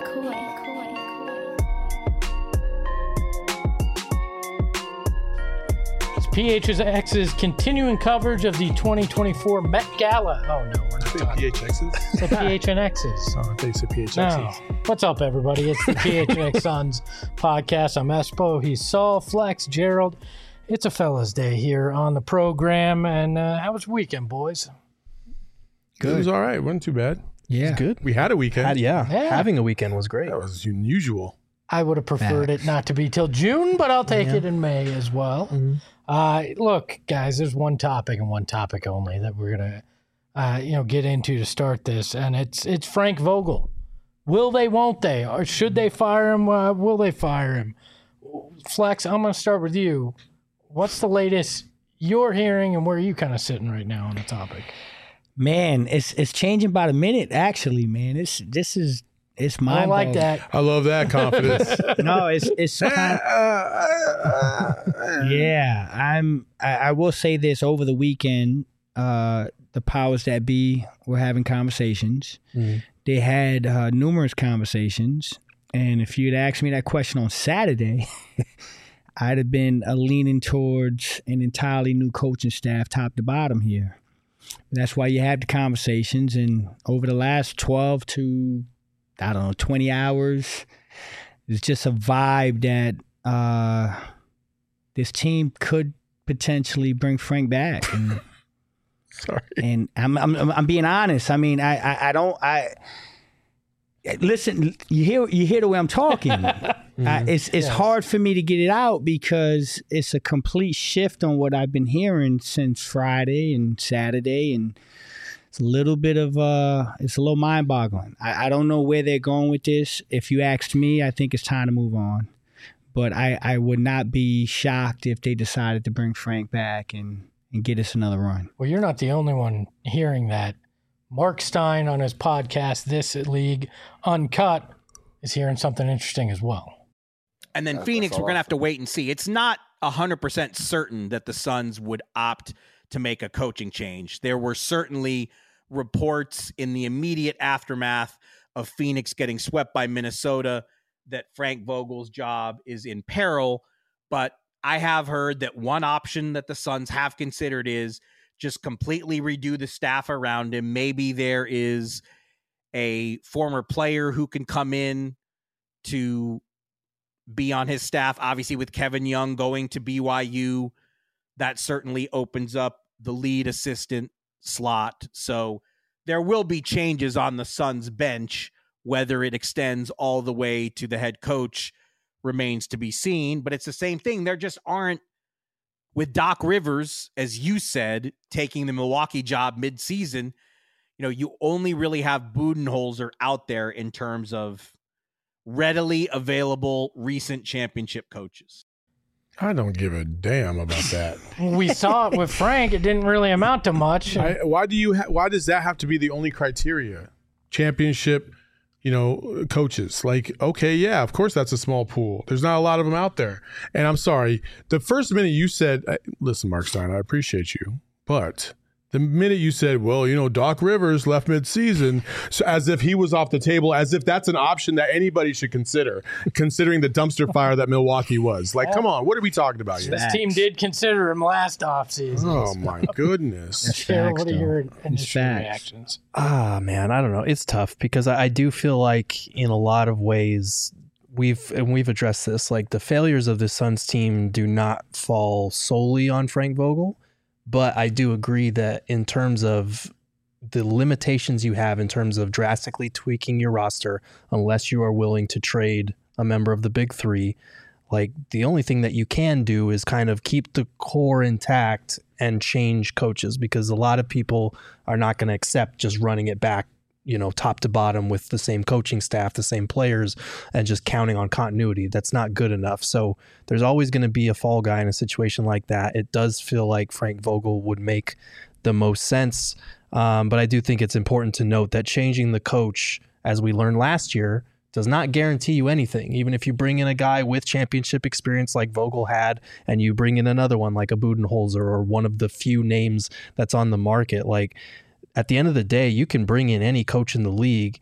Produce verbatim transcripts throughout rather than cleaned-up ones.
P H X's continuing coverage of the twenty twenty-four Met Gala. Oh, no, we're not talking. P H X's? The P H N X's. Oh, I think it's the P H X's. No. What's up, everybody? It's the P H N X Suns podcast. I'm Espo. He's Saul, Flex, Gerald. It's a fella's day here on the program. And uh, how was your weekend, boys? Good. It was all right. Wasn't too bad. Yeah. Good. We had a weekend. Had, yeah. Yeah. Having a weekend was great. That was unusual. I would have preferred it not to be till June, but I'll take Yeah. it in May as well. Mm-hmm. Uh, look, guys, there's one topic and one topic only that we're gonna, uh, you know, get into to start this, and it's it's Frank Vogel. Will they? Won't they? Or should they fire him? Uh, will they fire him? Flex, I'm gonna start with you. What's the latest you're hearing, and where are you kind of sitting right now on the topic? Man, it's it's changing by the minute. Actually, man, it's this is it's my I don't like that. I love that confidence. No, it's it's kind of, yeah. I'm. I, I will say this: over the weekend, uh, the powers that be were having conversations. Mm. They had uh, numerous conversations, and if you'd asked me that question on Saturday, I'd have been uh, leaning towards an entirely new coaching staff, top to bottom here. That's why you have the conversations, and over the last twelve to I don't know twenty hours, it's just a vibe that uh, this team could potentially bring Frank back. And, Sorry. and I'm, I'm I'm being honest. I mean, I I, I don't I listen. You hear you hear the way I'm talking. Mm-hmm. I, it's it's Yes. hard for me to get it out because it's a complete shift on what I've been hearing since Friday and Saturday, and it's a little bit of uh, it's a little mind-boggling. I, I don't know where they're going with this. If you asked me, I think it's time to move on. But I, I would not be shocked if they decided to bring Frank back and, and get us another run. Well, you're not the only one hearing that. Mark Stein on his podcast, This League Uncut, is hearing something interesting as well. And then That's- Phoenix, that's we're going to have to awesome. wait and see. It's not one hundred percent certain that the Suns would opt to make a coaching change. There were certainly reports in the immediate aftermath of Phoenix getting swept by Minnesota that Frank Vogel's job is in peril. But I have heard that one option that the Suns have considered is just completely redo the staff around him. Maybe there is a former player who can come in to be on his staff. Obviously, with Kevin Young going to B Y U, that certainly opens up the lead assistant slot. So there will be changes on the Suns bench. Whether it extends all the way to the head coach remains to be seen. But it's the same thing. There just aren't, with Doc Rivers, as you said, taking the Milwaukee job midseason, you know, you only really have Budenholzer out there in terms of readily available recent championship coaches. I don't give a damn about that. We saw it with Frank. It didn't really amount to much. I, why do you? Ha- why does that have to be the only criteria? Championship, you know, coaches. Like, okay, yeah, of course that's a small pool. There's not a lot of them out there. And I'm sorry, the first minute you said, "Listen, Mark Stein, I appreciate you," but the minute you said, well, you know, Doc Rivers left mid-season, so as if he was off the table, as if that's an option that anybody should consider, considering the dumpster fire that Milwaukee was. Like, come on, what are we talking about here? This team did consider him last offseason. Oh, my goodness. Cheryl, what are your initial facts. reactions? Ah, man, I don't know. It's tough because I, I do feel like in a lot of ways we've and we've addressed this. Like the failures of the Suns team do not fall solely on Frank Vogel, but I do agree that in terms of the limitations you have in terms of drastically tweaking your roster, unless you are willing to trade a member of the big three, like the only thing that you can do is kind of keep the core intact and change coaches, because a lot of people are not going to accept just running it back, you know, top to bottom with the same coaching staff, the same players, and just counting on continuity. That's not good enough. So there's always going to be a fall guy in a situation like that. It does feel like Frank Vogel would make the most sense. Um, but I do think it's important to note that changing the coach, as we learned last year, does not guarantee you anything. Even if you bring in a guy with championship experience like Vogel had, and you bring in another one like a Budenholzer or one of the few names that's on the market, like at the end of the day, you can bring in any coach in the league.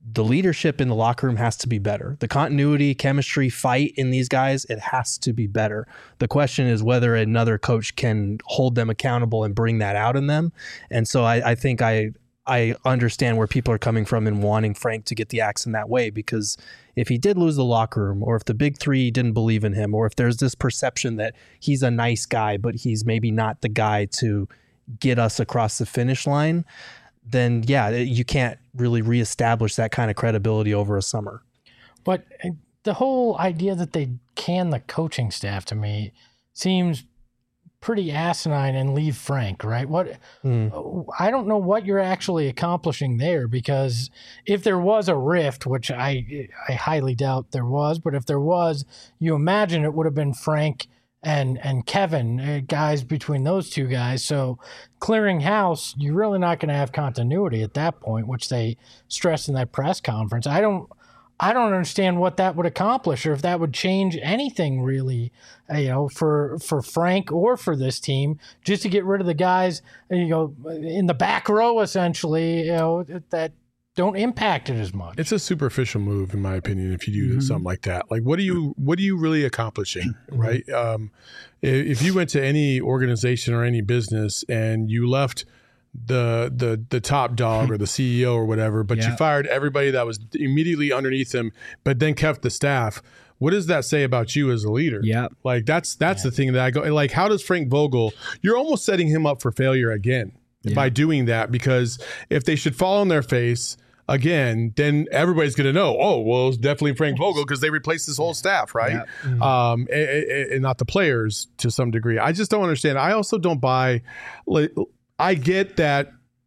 the leadership in the locker room has to be better. The continuity, chemistry, fight in these guys, it has to be better. The question is whether another coach can hold them accountable and bring that out in them. And so I, I think I I understand where people are coming from in wanting Frank to get the axe in that way, because if he did lose the locker room, or if the big three didn't believe in him, or if there's this perception that he's a nice guy, but he's maybe not the guy to get us across the finish line, then yeah, you can't really reestablish that kind of credibility over a summer. But the whole idea that they can the coaching staff to me seems pretty asinine and leave Frank, right? What mm. I don't know what you're actually accomplishing there, because if there was a rift, which I I highly doubt there was, but if there was, you imagine it would have been Frank and and Kevin, uh, guys between those two guys. So clearing house, you're really not going to have continuity at that point, which they stressed in that press conference. I don't I don't understand what that would accomplish, or if that would change anything really, you know, for for Frank or for this team, just to get rid of the guys, you know, in the back row, essentially, you know, that don't impact it as much. It's a superficial move, in my opinion, if you do mm-hmm. something like that. Like, what are you what are you really accomplishing, mm-hmm. right? Um, if you went to any organization or any business and you left the the the top dog or the C E O or whatever, but yeah. you fired everybody that was immediately underneath him, but then kept the staff, what does that say about you as a leader? Yeah. Like, that's that's yeah. the thing that I go, like, how does Frank Vogel, you're almost setting him up for failure again yeah. by doing that, because if they should fall on their face again, then everybody's going to know, oh, well, it's definitely Frank Vogel because they replaced his whole staff, right? Yeah. Mm-hmm. Um, and, and not the players to some degree. I just don't understand. I also don't buy, like, I get that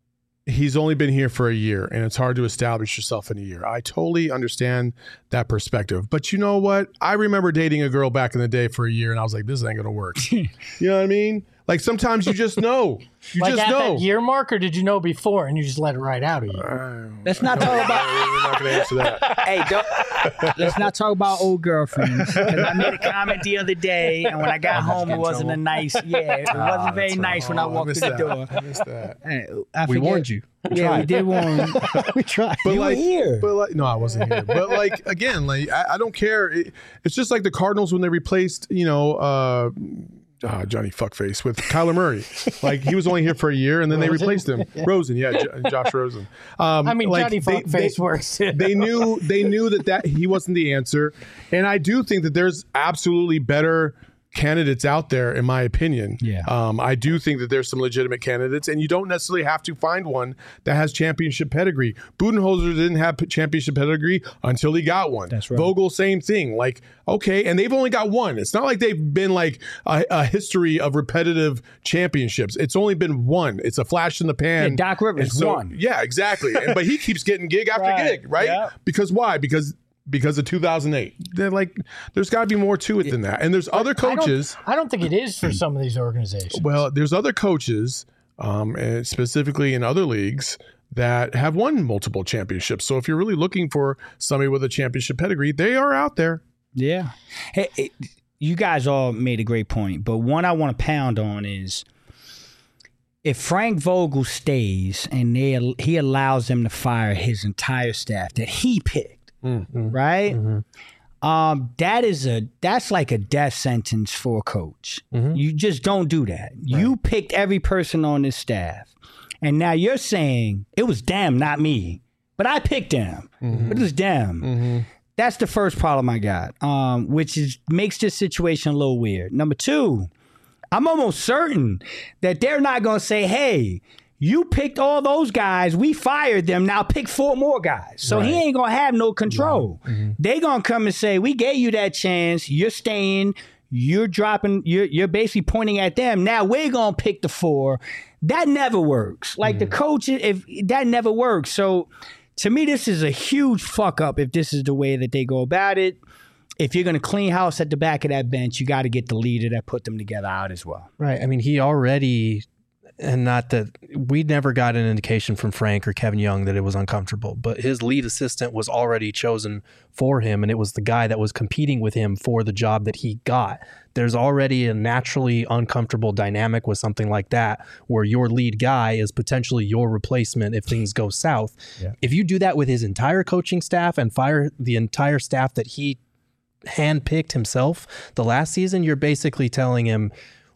he's only been here for a year and it's hard to establish yourself in a year. I totally understand that perspective. But you know what? I remember dating a girl back in the day for a year and I was like, this ain't going to work. You know what I mean? Like, sometimes you just know. You like just at know. That year mark, or did you know before and you just let it right out of you? Uh, let's not talk about. We're not going to answer that. Hey, don't. Let's not talk about old girlfriends. Because I made a comment the other day, and when I got home, it wasn't a nice. Yeah, it wasn't very oh, nice when I walked through the door. I missed that. Hey, I we warned you. We yeah, tried. we did warn. We tried. But you like, were here. But like, no, I wasn't here. But like, again, like, I, I don't care. It, it's just like the Cardinals when they replaced, you know. Uh, Uh, Johnny Fuckface with Kyler Murray. Like, he was only here for a year and then Rosen? they replaced him. yeah. Rosen, yeah, J- Josh Rosen. Um, I mean, like, Johnny they, Fuckface they, works. they knew they knew that, that he wasn't the answer. And I do think that there's absolutely better candidates out there, in my opinion. Yeah. Um, I do think that there's some legitimate candidates, and you don't necessarily have to find one that has championship pedigree. Budenholzer didn't have championship pedigree until he got one. That's right. Vogel, same thing. Like, okay, and they've only got one. It's not like they've been like a, a history of repetitive championships. It's only been one. It's a flash in the pan. Yeah, Doc Rivers so, won. Yeah, exactly. and, but he keeps getting gig after right. gig, right? Yeah. Because why? Because Because of two thousand eight. They're like, there's got to be more to it than that. And there's other coaches. I don't, I don't think it is for some of these organizations. Well, there's other coaches, um, and specifically in other leagues, that have won multiple championships. So if you're really looking for somebody with a championship pedigree, they are out there. Yeah. Hey, it, you guys all made a great point, but one I want to pound on is, if Frank Vogel stays and they he allows them to fire his entire staff that he picked, Mm-hmm. right? Mm-hmm. Um, that is a that's like a death sentence for a coach. Mm-hmm. You just don't do that. Right. You picked every person on this staff, and now you're saying it was them, not me, but I picked them. Mm-hmm. But it was them. Mm-hmm. That's the first problem I got, um, which is makes this situation a little weird. Number two, I'm almost certain that they're not going to say, "Hey, you picked all those guys. We fired them. Now pick four more guys." So right. he ain't going to have no control. Right. Mm-hmm. They going to come and say, we gave you that chance. You're staying. You're dropping. You're, you're basically pointing at them. Now we're going to pick the four. That never works. Like mm-hmm. the coach, if that never works. So to me, this is a huge fuck up if this is the way that they go about it. If you're going to clean house at the back of that bench, you got to get the leader that put them together out as well. Right. I mean, he already and not that we never got an indication from Frank or Kevin Young that it was uncomfortable, but his lead assistant was already chosen for him, and it was the guy that was competing with him for the job that he got. There's already a naturally uncomfortable dynamic with something like that, where your lead guy is potentially your replacement if things go south. Yeah. If you do that with his entire coaching staff and fire the entire staff that he handpicked himself the last season, you're basically telling him,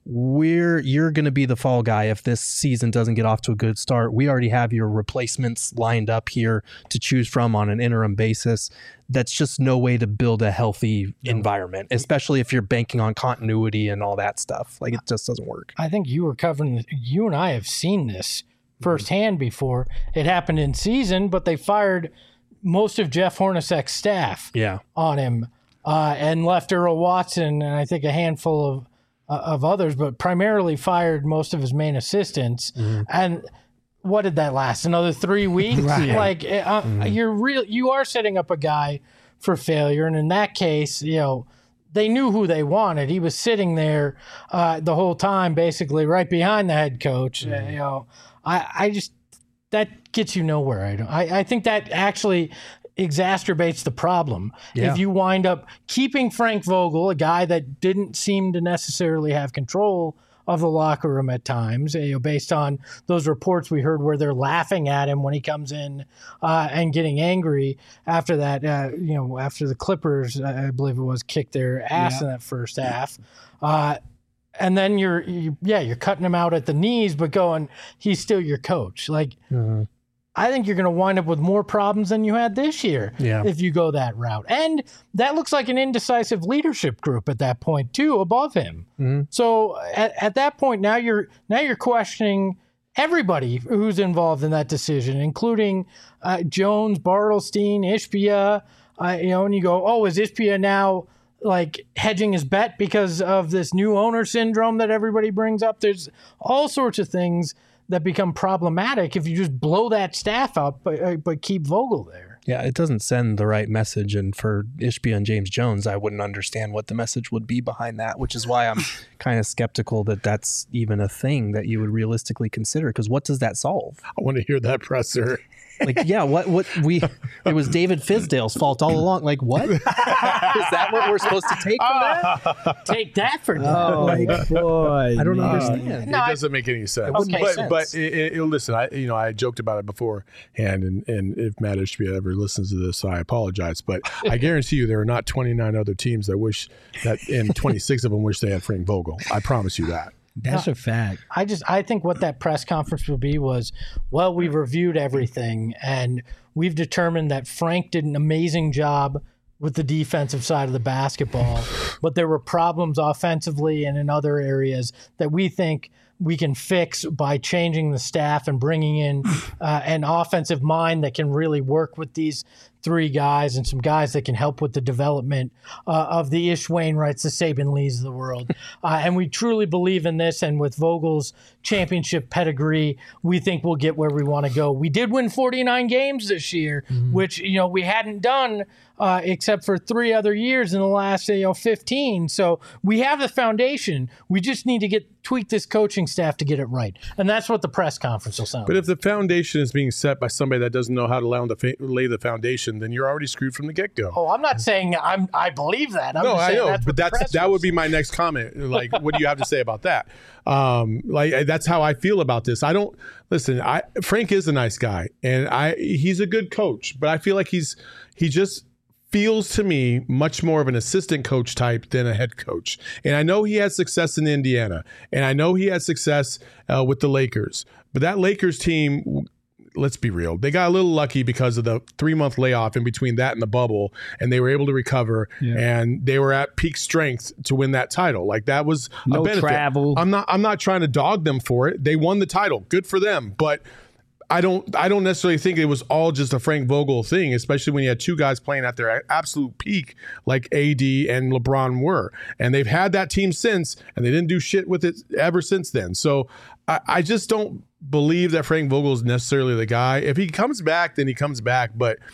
we're you're going to be the fall guy if this season doesn't get off to a good start. We already have your replacements lined up here to choose from on an interim basis. That's just no way to build a healthy environment, especially if you're banking on continuity and all that stuff. Like, it just doesn't work. I think you were covering, you and I have seen this firsthand before. It happened in season, but they fired most of Jeff Hornacek's staff yeah. on him uh, and left Earl Watson and I think a handful of of others, but primarily fired most of his main assistants. Mm-hmm. And what did that last? Another three weeks? Right. Like uh, mm-hmm. you're real, you are setting up a guy for failure. And in that case, you know, they knew who they wanted. He was sitting there uh, the whole time, basically right behind the head coach. Mm-hmm. Uh, you know, I, I just, that gets you nowhere. I don't, I, I think that actually exacerbates the problem. Yeah. If you wind up keeping Frank Vogel, a guy that didn't seem to necessarily have control of the locker room at times, you know, based on those reports we heard where they're laughing at him when he comes in uh, and getting angry after that, uh, you know, after the Clippers, I believe it was, kicked their ass yeah. in that first half. Uh, and then you're, you, yeah, you're cutting him out at the knees, but going, he's still your coach. Like, mm-hmm. I think you're going to wind up with more problems than you had this year yeah. if you go that route. And that looks like an indecisive leadership group at that point too, above him. Mm-hmm. So at, at that point, now you're now you're questioning everybody who's involved in that decision, including uh, Jones, Bartelstein, Ishbia. Uh, you know, and you go, oh, is Ishbia now like hedging his bet because of this new owner syndrome that everybody brings up? There's all sorts of things that become problematic if you just blow that staff up, but, but keep Vogel there. Yeah, it doesn't send the right message. And for Ishbia and James Jones, I wouldn't understand what the message would be behind that, which is why I'm kind of skeptical that that's even a thing that you would realistically consider. Because what does that solve? I want to hear that presser. Like, yeah, what, what we, it was David Fizdale's fault all along. Like, what? Is that what we're supposed to take from that? Take that for oh, my boy. I don't man. understand. No, it doesn't make any sense. Okay, but sense. but it, it, it, listen, I you know I joked about it beforehand, and and if Matt Ishbia ever listens to this, I apologize. But I guarantee you, there are not twenty-nine other teams that wish that, and twenty-six of them wish they had Frank Vogel. I promise you that. That's a fact. I just I think what that press conference will be was, well, we've reviewed everything and we've determined that Frank did an amazing job with the defensive side of the basketball, but there were problems offensively and in other areas that we think we can fix by changing the staff and bringing in uh, an offensive mind that can really work with these three guys and some guys that can help with the development uh, of the Ish Wainwrights, the Saban Lees of the world. Uh, and we truly believe in this. And with Vogel's championship pedigree, we think we'll get where we want to go. We did win forty-nine games this year, mm-hmm. which, you know, we hadn't done uh, except for three other years in the last, you know, fifteen. So we have the foundation. We just need to get tweak this coaching staff to get it right. And that's what the press conference will sound But like. if the foundation is being set by somebody that doesn't know how to lay, the fa- lay the foundation, then you're already screwed from the get-go. Oh, I'm not saying I'm, I believe that. I'm no, just I saying know, that's but that's that would be my next comment. Like, what do you have to say about that? Um, like, that's how I feel about this. I don't listen. I Frank is a nice guy, and I he's a good coach, but I feel like he's he just feels to me much more of an assistant coach type than a head coach. And I know he had success in Indiana, and I know he had success uh, with the Lakers, but that Lakers team, let's be real, they got a little lucky because of the three-month layoff in between that and the bubble, and they were able to recover, yeah. and they were at peak strength to win that title. Like, that was no a benefit. Travel. I'm not I'm not trying to dog them for it. They won the title. Good for them. But I don't I don't necessarily think it was all just a Frank Vogel thing, especially when you had two guys playing at their absolute peak like A D and LeBron were. And they've had that team since, and they didn't do shit with it ever since then. So I, I just don't believe that Frank Vogel is necessarily the guy. If he comes back, then he comes back. But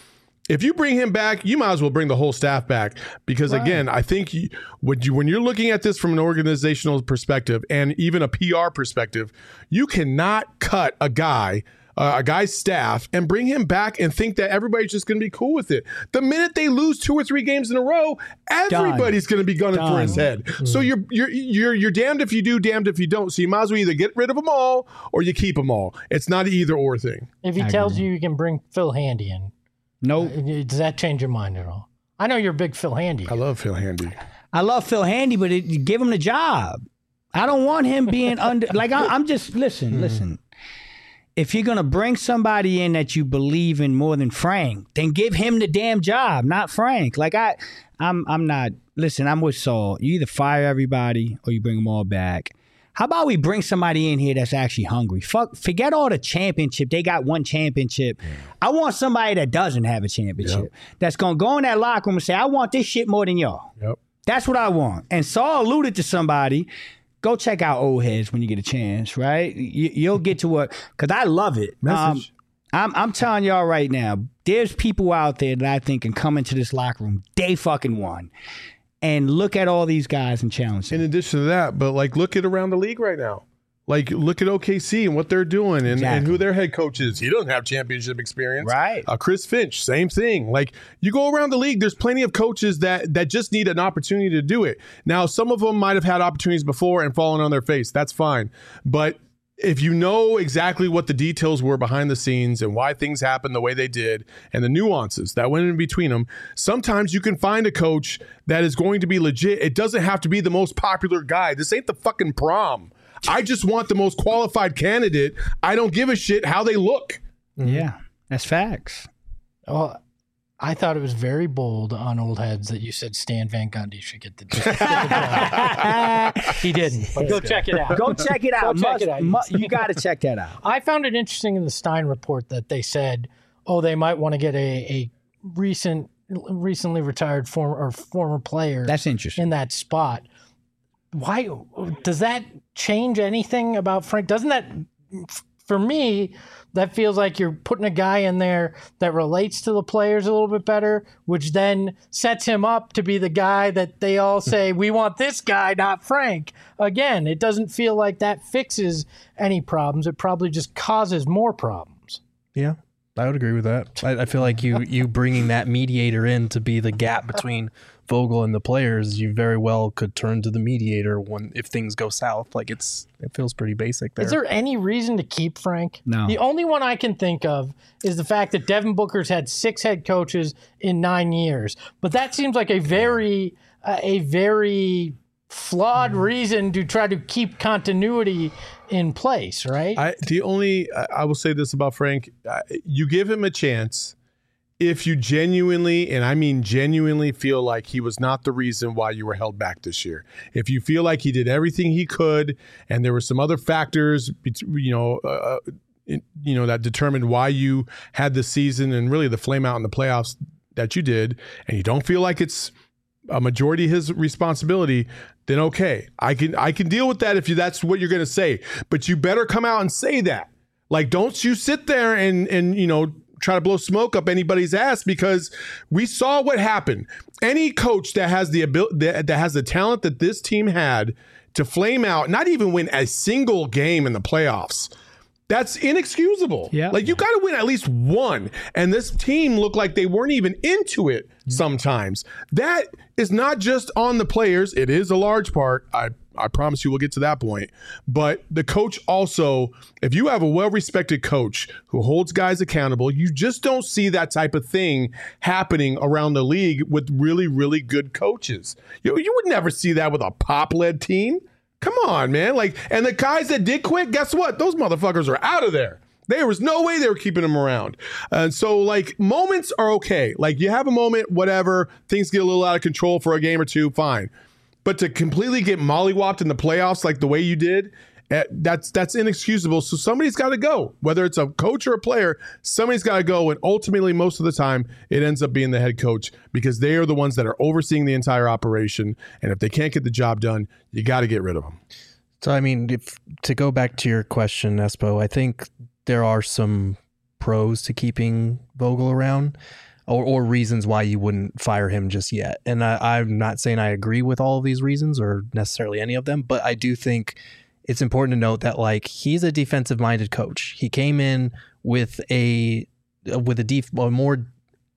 If you bring him back, you might as well bring the whole staff back because, right. again, I think you, when, you, when you're looking at this from an organizational perspective and even a P R perspective, you cannot cut a guy, uh, a guy's staff, and bring him back and think that everybody's just going to be cool with it. The minute they lose two or three games in a row, everybody's going to be gunning Done. for his head. Mm. So you're you're you're you're damned if you do, damned if you don't. So you might as well either get rid of them all or you keep them all. It's not an either or thing. If he I tells agree. you you can bring Phil Handy in. Nope. Uh, does that change your mind at all? I know you're a big Phil Handy. I love Phil Handy. I love Phil Handy, but it, give him the job. I don't want him being under. Like I, I'm just listen, mm. listen. If you're gonna bring somebody in that you believe in more than Frank, then give him the damn job, not Frank. Like I, I'm, I'm not. Listen, I'm with Saul. You either fire everybody or you bring them all back. How about we bring somebody in here that's actually hungry? Fuck, forget all the championship. They got one championship. Yeah. I want somebody that doesn't have a championship. Yep. That's going to go in that locker room and say, I want this shit more than y'all. Yep. That's what I want. And Saul alluded to somebody. Go check out Old Heads when you get a chance, right? You, you'll get to what, because I love it. Message. Um, I'm, I'm telling y'all right now, there's people out there that I think can come into this locker room day fucking one. And look at all these guys and challenge them. In addition to that, but like look at around the league right now. Like look at O K C and what they're doing and, exactly. and who their head coach is. He doesn't have championship experience. Right. Uh, Chris Finch, same thing. Like you go around the league, there's plenty of coaches that that just need an opportunity to do it. Now, some of them might have had opportunities before and fallen on their face. That's fine. But if you know exactly what the details were behind the scenes and why things happened the way they did and the nuances that went in between them, sometimes you can find a coach that is going to be legit. It doesn't have to be the most popular guy. This ain't the fucking prom. I just want the most qualified candidate. I don't give a shit how they look. Yeah, that's facts. Well, I thought it was very bold on Old Heads that you said Stan Van Gundy should get the, get the job. He didn't. But go check it out. Go check it out. Go check must, it out. Must, you got to check that out. I found it interesting in the Stein report that they said, oh, they might want to get a, a recent, recently retired former or former player. That's interesting. In that spot. Why does that change anything about Frank? Doesn't that, for me, that feels like you're putting a guy in there that relates to the players a little bit better, which then sets him up to be the guy that they all say, we want this guy, not Frank. Again, it doesn't feel like that fixes any problems. It probably just causes more problems. Yeah, I would agree with that. I, I feel like you you bringing that mediator in to be the gap between Vogel and the players, you very well could turn to the mediator when if things go south. Like it's it feels pretty basic there. Is there any reason to keep Frank? No. The only one I can think of is the fact that Devin Booker's had six head coaches in nine years. But that seems like a very uh, a very flawed mm. reason to try to keep continuity in place, right? I, the only I will say this about Frank: uh, you give him a chance. If you genuinely, and I mean genuinely, feel like he was not the reason why you were held back this year, if you feel like he did everything he could, and there were some other factors, you know, uh, you know that determined why you had the season and really the flame out in the playoffs that you did, and you don't feel like it's a majority of his responsibility, then okay, I can I can deal with that if you that's what you're going to say, but you better come out and say that. Like, don't you sit there and and you know. try to blow smoke up anybody's ass, because we saw what happened. Any coach that has the ability, that, that has the talent that this team had to flame out, not even win a single game in the playoffs, that's inexcusable. Yeah. Like, you got to win at least one. And this team looked like they weren't even into it sometimes. That is not just on the players. It is a large part. I I promise you we'll get to that point. But the coach also, if you have a well-respected coach who holds guys accountable, you just don't see that type of thing happening around the league with really, really good coaches. You, you would never see that with a Pop-led team. Come on, man. Like, and the guys that did quit, guess what? Those motherfuckers are out of there. There was no way they were keeping him around. And so, like, moments are okay. Like, you have a moment, whatever, things get a little out of control for a game or two, fine. But to completely get mollywopped in the playoffs like the way you did, that's that's inexcusable. So somebody's got to go. Whether it's a coach or a player, somebody's got to go. And ultimately, most of the time, it ends up being the head coach, because they are the ones that are overseeing the entire operation. And if they can't get the job done, you got to get rid of them. So, I mean, if, to go back to your question, Espo, I think there are some pros to keeping Vogel around. or, or reasons why you wouldn't fire him just yet. And I, I'm not saying I agree with all of these reasons or necessarily any of them, but I do think it's important to note that like he's a defensive minded coach. He came in with a with a, def, a more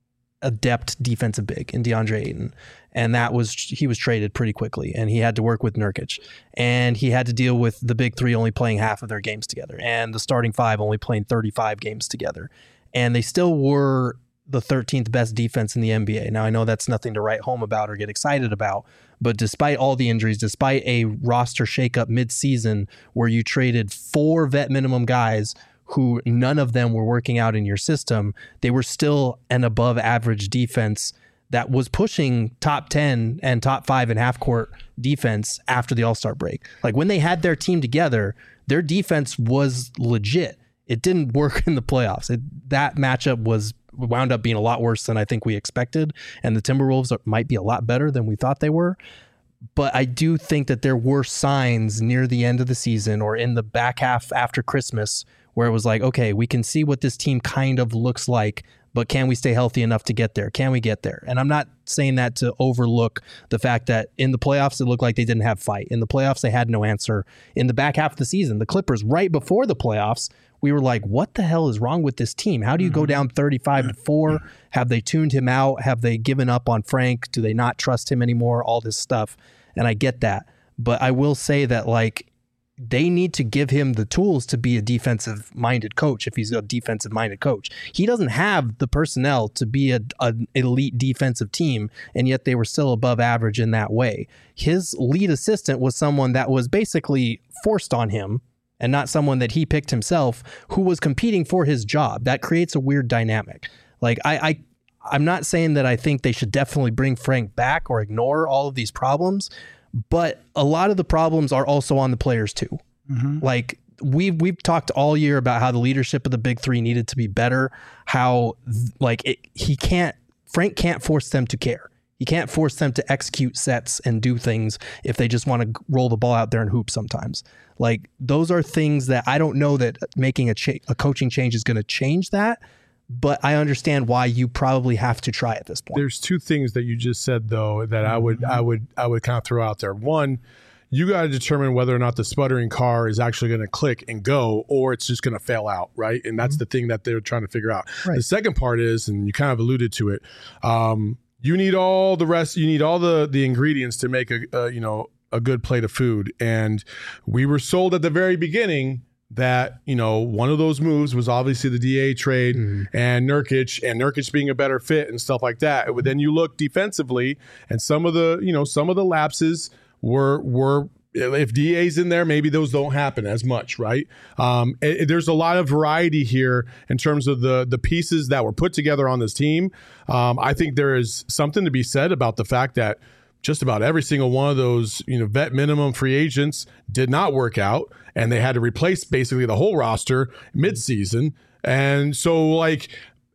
adept defensive big in DeAndre Ayton. And that was, he was traded pretty quickly, and he had to work with Nurkic, and he had to deal with the big three only playing half of their games together and the starting five only playing thirty-five games together. And they still were the thirteenth best defense in the N B A. Now I know that's nothing to write home about or get excited about, but despite all the injuries, despite a roster shakeup mid-season where you traded four vet minimum guys who none of them were working out in your system, they were still an above average defense that was pushing top ten and top five in half court defense after the All-Star break. Like when they had their team together, their defense was legit. It didn't work in the playoffs. It, that matchup was wound up being a lot worse than I think we expected. And the Timberwolves are, might be a lot better than we thought they were. But I do think that there were signs near the end of the season or in the back half after Christmas where it was like, okay, we can see what this team kind of looks like, but can we stay healthy enough to get there? Can we get there? And I'm not saying that to overlook the fact that in the playoffs, it looked like they didn't have fight. In the playoffs, they had no answer. In the back half of the season, the Clippers, right before the playoffs, we were like, what the hell is wrong with this team? How do you go down thirty-five to four? Have they tuned him out? Have they given up on Frank? Do they not trust him anymore? All this stuff. And I get that. But I will say that, like, they need to give him the tools to be a defensive-minded coach if he's a defensive-minded coach. He doesn't have the personnel to be a, an elite defensive team, and yet they were still above average in that way. His lead assistant was someone that was basically forced on him and not someone that he picked himself who was competing for his job. That creates a weird dynamic. Like, I, I, I'm not saying that I think they should definitely bring Frank back or ignore all of these problems, but a lot of the problems are also on the players too. Mm-hmm. Like we've, we've talked all year about how the leadership of the big three needed to be better, how like it, he can't, Frank can't force them to care. He can't force them to execute sets and do things if they just want to roll the ball out there and hoop sometimes. Like those are things that I don't know that making a, cha- a coaching change is going to change that. But I understand why you probably have to try at this point. There's two things that you just said though that I would I would I would kind of throw out there. One, you got to determine whether or not the sputtering car is actually going to click and go, or it's just going to fail out, right? And that's mm-hmm. the thing that they're trying to figure out. Right. The second part is, and you kind of alluded to it, um, you need all the rest. You need all the the ingredients to make a, a you know a good plate of food. And we were sold at the very beginning that, you know, one of those moves was obviously the D A trade mm. and Nurkic and Nurkic being a better fit and stuff like that. But then you look defensively and some of the, you know, some of the lapses were, were, if D A's in there, maybe those don't happen as much, right? Um, it, there's a lot of variety here in terms of the the pieces that were put together on this team. Um, I think there is something to be said about the fact that just about every single one of those, you know, vet minimum free agents did not work out, and they had to replace basically the whole roster midseason. And so, like,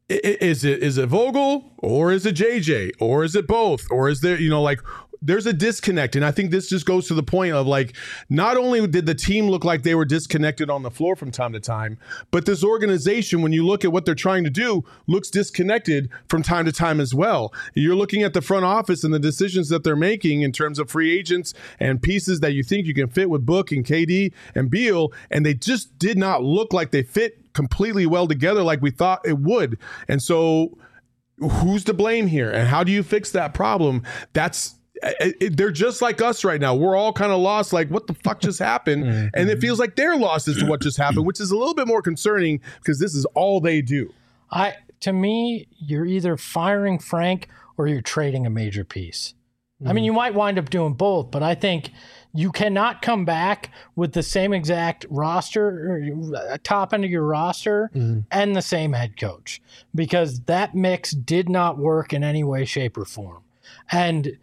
is it is it Vogel or is it J J or is it both, or is there, you know, like, there's a disconnect. And I think this just goes to the point of, like, not only did the team look like they were disconnected on the floor from time to time, but this organization, when you look at what they're trying to do, looks disconnected from time to time as well. You're looking at the front office and the decisions that they're making in terms of free agents and pieces that you think you can fit with Book and K D and Beal, and they just did not look like they fit completely well together like we thought it would. And so who's to blame here? And how do you fix that problem? That's It, it, they're just like us right now. We're all kind of lost, like, what the fuck just happened? Mm-hmm. And it feels like they're lost as to what just happened, which is a little bit more concerning because this is all they do. I to me, you're either firing Frank or you're trading a major piece. Mm-hmm. I mean, you might wind up doing both, but I think you cannot come back with the same exact roster, or top end of your roster, mm-hmm. and the same head coach, because that mix did not work in any way, shape, or form. And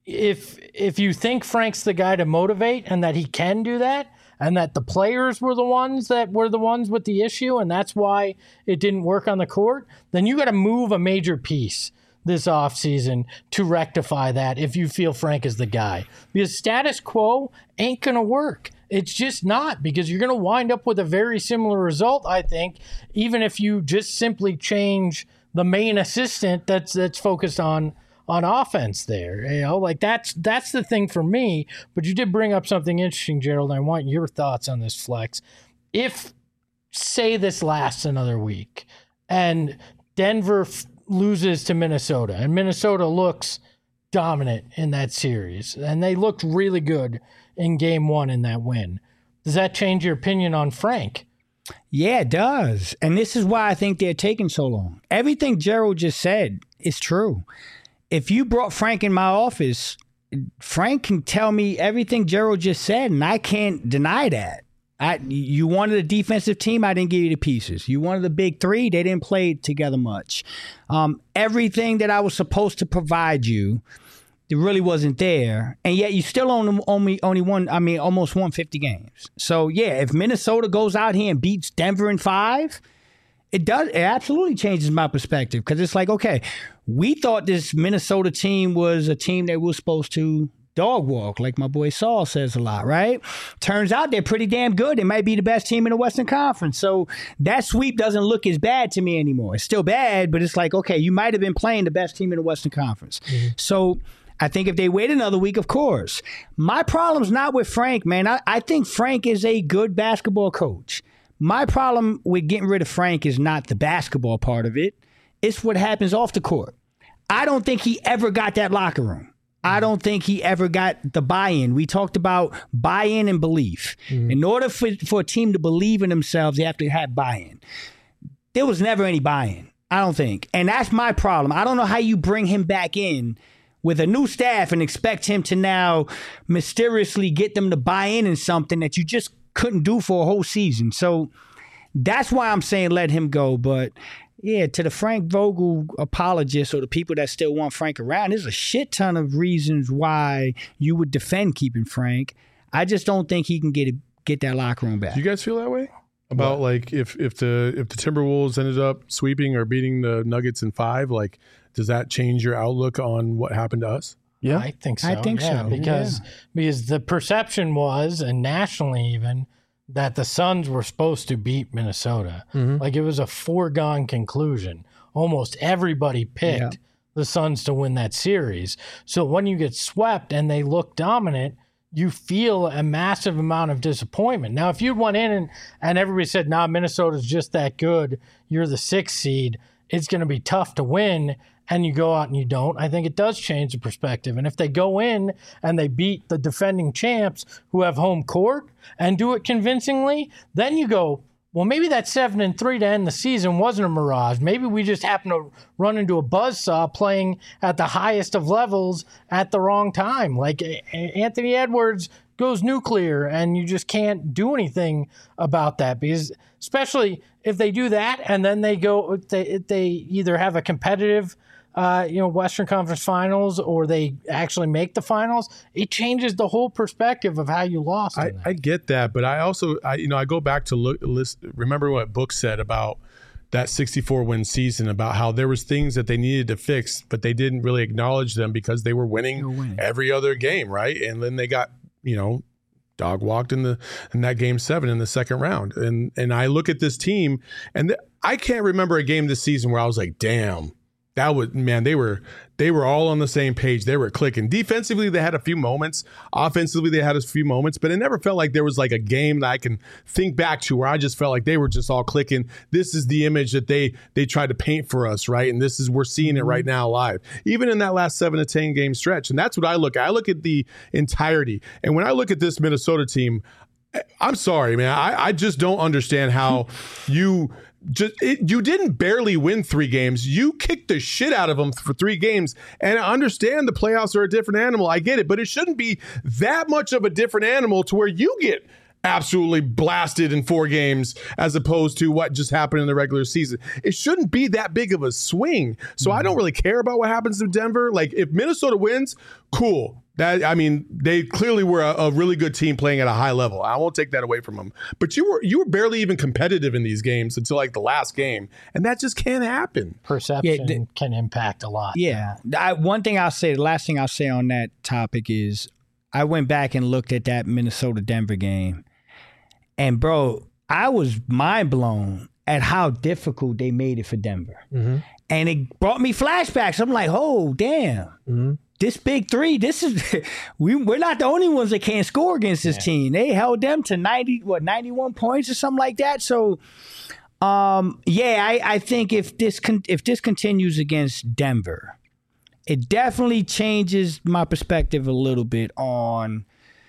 If if you think Frank's the guy to motivate and that he can do that, and that the players were the ones that were the ones with the issue, and that's why it didn't work on the court, then you got to move a major piece this offseason to rectify that if you feel Frank is the guy. Because status quo ain't going to work. It's just not, because you're going to wind up with a very similar result, I think, even if you just simply change the main assistant that's that's focused on on offense there. You know, like that's that's the thing for me. But you did bring up something interesting, Gerald. I want your thoughts on this, Flex. If, say, this lasts another week and Denver f- loses to Minnesota and Minnesota looks dominant in that series and they looked really good in game one in that win, does that change your opinion on Frank? Yeah, it does. And this is why I think they're taking so long. Everything Gerald just said is true. If you brought Frank in my office, Frank can tell me everything Gerald just said, and I can't deny that. I, you wanted a defensive team, I didn't give you the pieces. You wanted the big three, they didn't play together much. Um, everything that I was supposed to provide you, it really wasn't there. And yet you still only, only, only won, I mean, almost won fifty games. So, yeah, if Minnesota goes out here and beats Denver in five, it does. It absolutely changes my perspective because it's like, okay, we thought this Minnesota team was a team that was supposed to dog walk, like my boy Saul says a lot, right? Turns out they're pretty damn good. They might be the best team in the Western Conference. So that sweep doesn't look as bad to me anymore. It's still bad, but it's like, okay, you might have been playing the best team in the Western Conference. Mm-hmm. So I think if they wait another week, of course. My problem's not with Frank, man. I, I think Frank is a good basketball coach. My problem with getting rid of Frank is not the basketball part of it. It's what happens off the court. I don't think he ever got that locker room. I don't think he ever got the buy-in. We talked about buy-in and belief. Mm-hmm. In order for, for a team to believe in themselves, they have to have buy-in. There was never any buy-in, I don't think. And that's my problem. I don't know how you bring him back in with a new staff and expect him to now mysteriously get them to buy in in something that you just couldn't do for a whole season. So that's why I'm saying let him go. But yeah, to the Frank Vogel apologists or the people that still want Frank around, there's a shit ton of reasons why you would defend keeping Frank. I just don't think he can get it, get that locker room back. Do you guys feel that way about what? like if if the if the Timberwolves ended up sweeping or beating the Nuggets in five? Like, does that change your outlook on what happened to us? Yeah, I think so. I think yeah, so because yeah. because the perception was, and nationally even, that the Suns were supposed to beat Minnesota. Mm-hmm. Like it was a foregone conclusion. Almost everybody picked yeah. the Suns to win that series. So when you get swept and they look dominant, you feel a massive amount of disappointment. Now, if you went in and, and everybody said, nah, Minnesota's just that good, you're the sixth seed, it's going to be tough to win, and you go out and you don't, I think it does change the perspective. And if they go in and they beat the defending champs who have home court and do it convincingly, then you go, well, maybe that seven and three to end the season wasn't a mirage. Maybe we just happened to run into a buzzsaw playing at the highest of levels at the wrong time. Like Anthony Edwards goes nuclear and you just can't do anything about that, because especially if they do that and then they go, they, they either have a competitive Uh, you know, Western Conference Finals, or they actually make the finals, it changes the whole perspective of how you lost. I, I get that, but I also, I, you know, I go back to look, list, remember what Book said about that sixty-four win season, about how there was things that they needed to fix, but they didn't really acknowledge them because they were winning, were winning. every other game, right? And then they got, you know, dog walked in the in that game seven in the second round. And and I look at this team, and th- I can't remember a game this season where I was like, damn. That was, man, they were they were all on the same page. They were clicking. Defensively, they had a few moments. Offensively, they had a few moments, but it never felt like there was like a game that I can think back to where I just felt like they were just all clicking. This is the image that they they tried to paint for us, right? And this is, we're seeing it right now live. Even in that last seven to ten game stretch. And that's what I look at. I look at the entirety. And when I look at this Minnesota team, I'm sorry, man. I, I just don't understand how you just it, you didn't barely win three games. You kicked the shit out of them for three games. And I understand the playoffs are a different animal. I get it, but it shouldn't be that much of a different animal to where you get absolutely blasted in four games as opposed to what just happened in the regular season. It shouldn't be that big of a swing. So mm-hmm. I don't really care about what happens to Denver. Like, if Minnesota wins, cool. That, I mean, they clearly were a, a really good team playing at a high level. I won't take that away from them. But you were you were barely even competitive in these games until like the last game, and that just can't happen. Perception yeah, th- can impact a lot. Yeah. I, one thing I'll say, the last thing I'll say on that topic is, I went back and looked at that Minnesota-Denver game, and bro, I was mind blown at how difficult they made it for Denver. Mm-hmm. And it brought me flashbacks. I'm like, oh, damn. Mm-hmm. This big three, this is we we're not the only ones that can't score against this yeah. team. They held them to ninety, what, ninety-one points or something like that. So, um, yeah, I, I think if this con- if this continues against Denver, it definitely changes my perspective a little bit on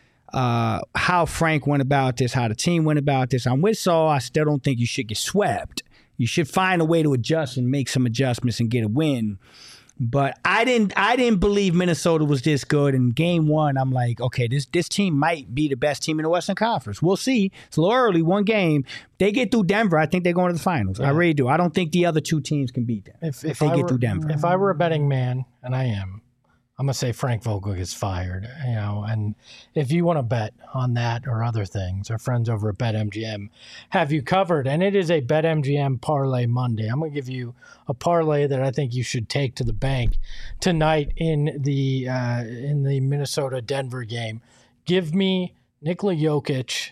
uh, how Frank went about this, how the team went about this. I'm with Saul. I still don't think you should get swept. You should find a way to adjust and make some adjustments and get a win. But I didn't I didn't believe Minnesota was this good. In game one, I'm like, okay, this this team might be the best team in the Western Conference. We'll see. It's a little early, one game. They get through Denver, I think they're going to the finals. Yeah. I really do. I don't think the other two teams can beat them if, if, if they I get were, through Denver. If I were a betting man, and I am, I'm going to say Frank Vogel gets fired. You know, and if you want to bet on that or other things, our friends over at BetMGM have you covered. And it is a BetMGM Parlay Monday. I'm going to give you a parlay that I think you should take to the bank tonight in the uh, in the Minnesota-Denver game. Give me Nikola Jokic,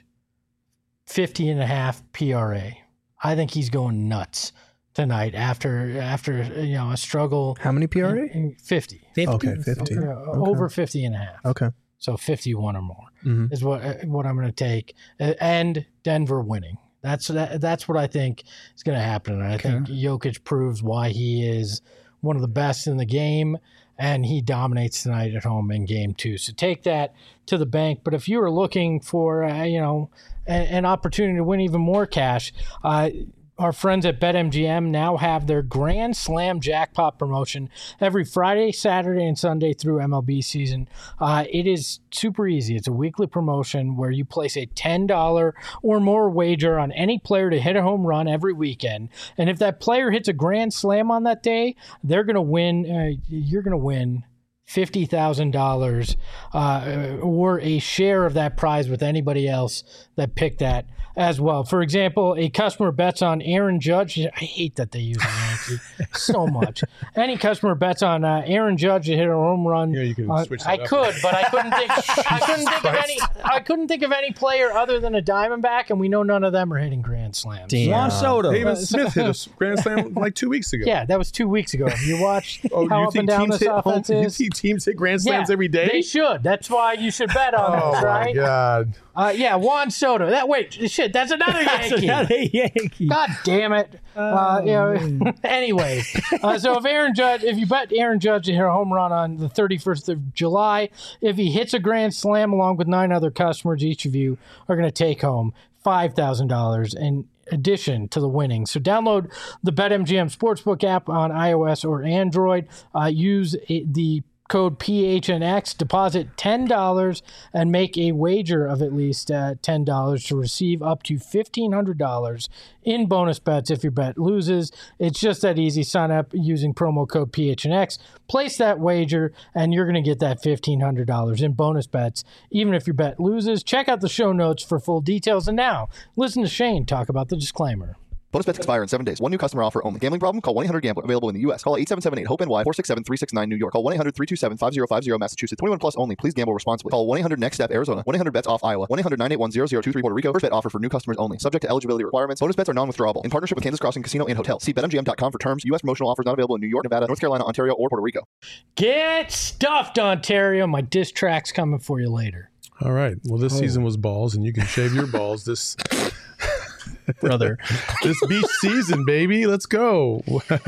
fifty and a half P R A. I think he's going nuts tonight after after you know a struggle. How many P R A? fifty. fifty. Okay, fifty. Uh, okay. Over fifty and a half. Okay. So fifty-one or more mm-hmm. is what what I'm going to take, and Denver winning. That's that, that's what I think is going to happen. And I okay. think Jokic proves why he is one of the best in the game, and he dominates tonight at home in game two. So take that to the bank. But if you are looking for uh, you know a, an opportunity to win even more cash, uh, our friends at BetMGM now have their Grand Slam jackpot promotion every Friday, Saturday, and Sunday through M L B season. Uh, it is super easy. It's a weekly promotion where you place a ten dollars or more wager on any player to hit a home run every weekend. And if that player hits a Grand Slam on that day, they're going to win. Uh, you're going to win fifty thousand dollars uh, or a share of that prize with anybody else that picked that as well. For example, a customer bets on Aaron Judge. I hate that they use a Yankee so much. Any customer bets on uh, Aaron Judge to hit a home run. Yeah, you can uh, switch that I up. could, but I couldn't think. I couldn't think of any. I couldn't think of any player other than a Diamondback, and we know none of them are hitting grand slams. Damn. Juan Soto. David Smith hit a grand slam like two weeks ago. Yeah, that was two weeks ago. Have you watched oh, how you up and down this hit offense home, is? You see teams hit grand slams yeah, every day? They should. That's why you should bet on oh this, right? Oh, my God. Uh, yeah, Juan Soto. That wait, shit, that's another Yankee. That's another Yankee. God damn it. Oh, uh, you know, anyway, uh, so if Aaron Judge, if you bet Aaron Judge to hit a home run on the thirty-first of July, if he hits a grand slam along with nine other customers, each of you are going to take home five thousand dollars in addition to the winnings. So download the BetMGM Sportsbook app on iOS or Android. Uh, use it, the code P H N X, deposit ten dollars and make a wager of at least uh, ten dollars to receive up to fifteen hundred dollars in bonus bets if your bet loses. It's just that easy. Sign up using promo code P H N X, place that wager, and you're going to get that fifteen hundred dollars in bonus bets, even if your bet loses. Check out the show notes for full details. And now, listen to Shane talk about the disclaimer. Bonus bets expire in seven days. One new customer offer only. Gambling problem? Call one eight hundred gambler. Available in the U S. Call eight seven seven eight hope N Y four six seven three six nine New York. Call one eight hundred three two seven five zero five zero Massachusetts. twenty-one plus only. Please gamble responsibly. Call one eight hundred next step Arizona. one eight hundred bets off Iowa. one eight hundred nine eight one zero zero two three Puerto Rico. First bet offer for new customers only. Subject to eligibility requirements. Bonus bets are non-withdrawable. In partnership with Kansas Crossing Casino and Hotel. See bet M G M dot com for terms. U S promotional offers not available in New York, Nevada, North Carolina, Ontario, or Puerto Rico. Get stuffed, Ontario. My diss track's coming for you later. All right. Well, this oh. season was balls, and you can shave your balls this brother. This beach season, baby. Let's go.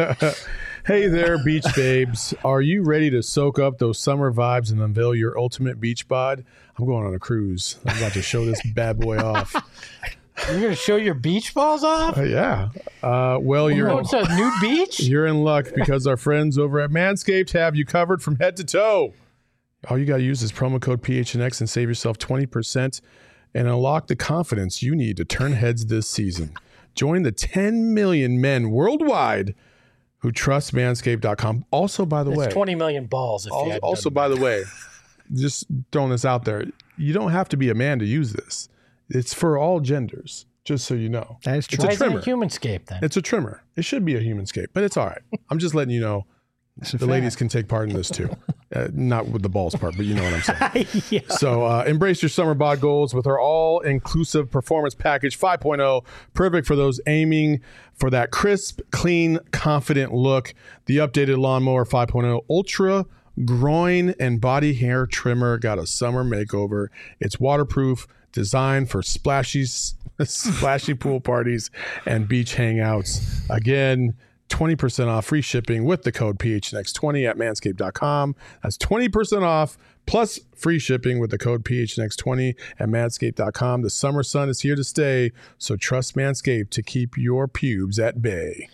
Hey there, beach babes. Are you ready to soak up those summer vibes and unveil your ultimate beach bod? I'm going on a cruise. I'm about to show this bad boy off. You're going to show your beach balls off? Uh, yeah. Uh, well, you're oh, it's a nude beach? You're in luck because our friends over at Manscaped have you covered from head to toe. All you got to use is promo code P H N X and save yourself twenty percent and unlock the confidence you need to turn heads this season. Join the ten million men worldwide who trust manscaped dot com. Also, by the it's way, twenty million balls. If also, you also by the way, just throwing this out there, you don't have to be a man to use this. It's for all genders, just so you know. That is true. It's a Why trimmer. isn't it a humanscape then? It's a trimmer. It should be a humanscape, but it's all right. I'm just letting you know the ladies can take part in this too. Uh, not with the balls part, but you know what I'm saying. Yeah. So uh, embrace your summer bod goals with our all-inclusive performance package five point oh. Perfect for those aiming for that crisp, clean, confident look. The updated Lawnmower five point oh Ultra Groin and Body Hair Trimmer got a summer makeover. It's waterproof, designed for splashy, splashy pool parties and beach hangouts. Again, twenty percent off, free shipping with the code P H N X twenty at manscaped dot com. That's twenty percent off plus free shipping with the code P H N X twenty at manscaped dot com. The summer sun is here to stay, so trust Manscaped to keep your pubes at bay.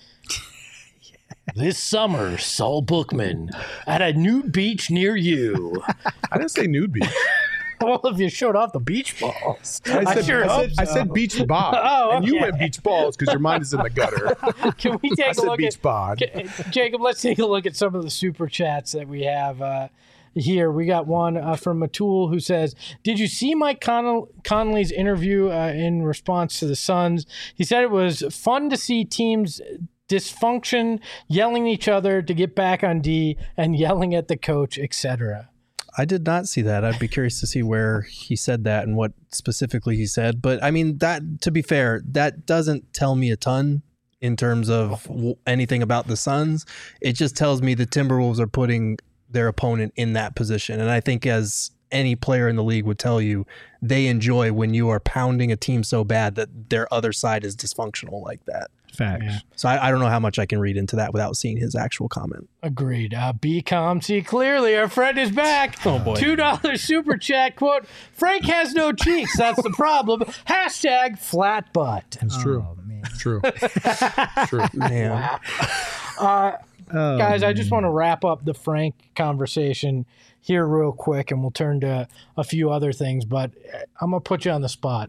This summer, Saul Bookman at a nude beach near you. I didn't say nude beach. Well, if you showed off the beach balls. I said, I sure I hope said, I so. said beach bod. Oh, And you okay. went beach balls because your mind is in the gutter. Can we I take a said look beach at bod. Jacob? Let's take a look at some of the super chats that we have uh, here. We got one uh, from Matul who says, "Did you see Mike Con- Conley's interview uh, in response to the Suns? He said it was fun to see teams dysfunction, yelling at each other to get back on D, and yelling at the coach, et cetera" I did not see that. I'd be curious to see where he said that and what specifically he said. But I mean, that, to be fair, that doesn't tell me a ton in terms of w- anything about the Suns. It just tells me the Timberwolves are putting their opponent in that position. And I think, as any player in the league would tell you, they enjoy when you are pounding a team so bad that their other side is dysfunctional like that. Facts. Yeah. So I, I don't know how much I can read into that without seeing his actual comment. Agreed. Uh, be calm, see clearly. Our friend is back. Oh, boy. two dollars super chat. Quote, Frank has no cheeks. That's the problem. Hashtag flat butt. It's true. Oh, man. It's true. It's true. Man. Uh, Oh, guys, I man. just want to wrap up the Frank conversation here real quick, and we'll turn to a few other things, but I'm going to put you on the spot.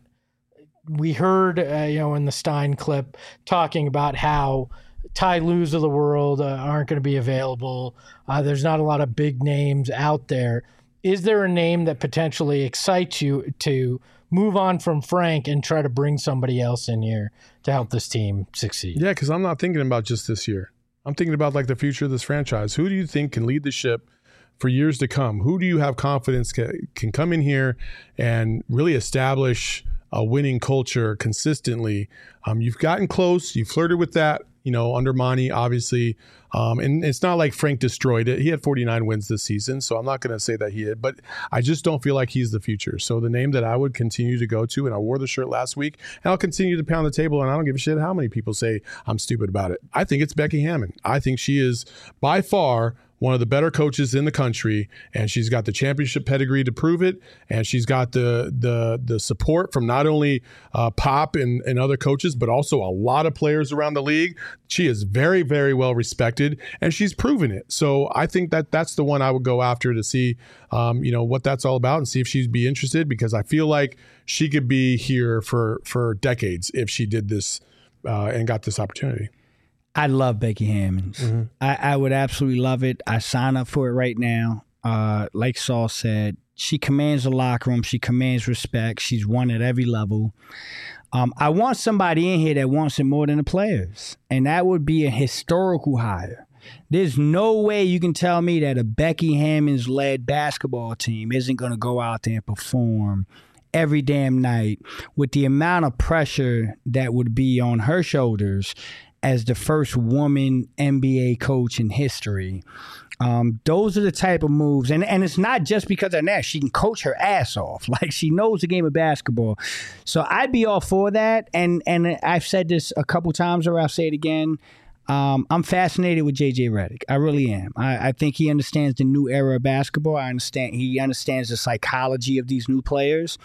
We heard, uh, you know, in the Stein clip talking about how Ty Lues of the world uh, aren't going to be available. Uh, there's not a lot of big names out there. Is there a name that potentially excites you to move on from Frank and try to bring somebody else in here to help this team succeed? Yeah, because I'm not thinking about just this year. I'm thinking about like the future of this franchise. Who do you think can lead the ship for years to come? Who do you have confidence can, can come in here and really establish a winning culture consistently? Um, you've gotten close. You flirted with that, you know, under Monty, obviously. Um, and it's not like Frank destroyed it. He had forty-nine wins this season, so I'm not going to say that he did. But I just don't feel like he's the future. So the name that I would continue to go to, and I wore the shirt last week, and I'll continue to pound the table, and I don't give a shit how many people say I'm stupid about it. I think it's Becky Hammon. I think she is by far one of the better coaches in the country, and she's got the championship pedigree to prove it, and she's got the the the support from not only uh, Pop and, and other coaches, but also a lot of players around the league. She is very, very well respected, and she's proven it. So I think that that's the one I would go after to see, um, you know, what that's all about and see if she'd be interested, because I feel like she could be here for for decades if she did this uh, and got this opportunity. I love Becky Hammons. Mm-hmm. I, I would absolutely love it. I sign up for it right now. Uh, like Saul said, she commands the locker room. She commands respect. She's won at every level. Um, I want somebody in here that wants it more than the players, and that would be a historical hire. There's no way you can tell me that a Becky Hammons-led basketball team isn't going to go out there and perform every damn night with the amount of pressure that would be on her shoulders as the first woman N B A coach in history. Um, those are the type of moves. And, and it's not just because of that. She can coach her ass off. Like, she knows the game of basketball. So I'd be all for that. And and I've said this a couple times, or I'll say it again. Um, I'm fascinated with J J Redick. I really am. I, I think he understands the new era of basketball. I understand he understands the psychology of these new players.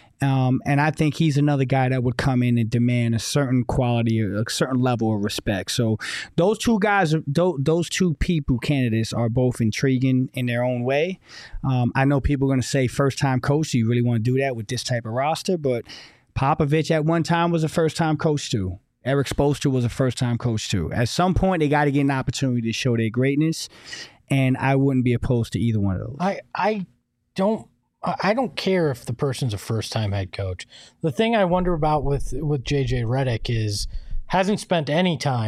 Um, and I think he's another guy that would come in and demand a certain quality, a certain level of respect. So those two guys, those two people, candidates, are both intriguing in their own way. Um, I know people are going to say first-time coach. Do you really want to do that with this type of roster? But Popovich at one time was a first-time coach too. Eric Spoelstra was a first-time coach too. At some point, they got to get an opportunity to show their greatness, and I wouldn't be opposed to either one of those. I, I don't I don't care if the person's a first-time head coach. The thing I wonder about with, with J J Redick is hasn't spent any time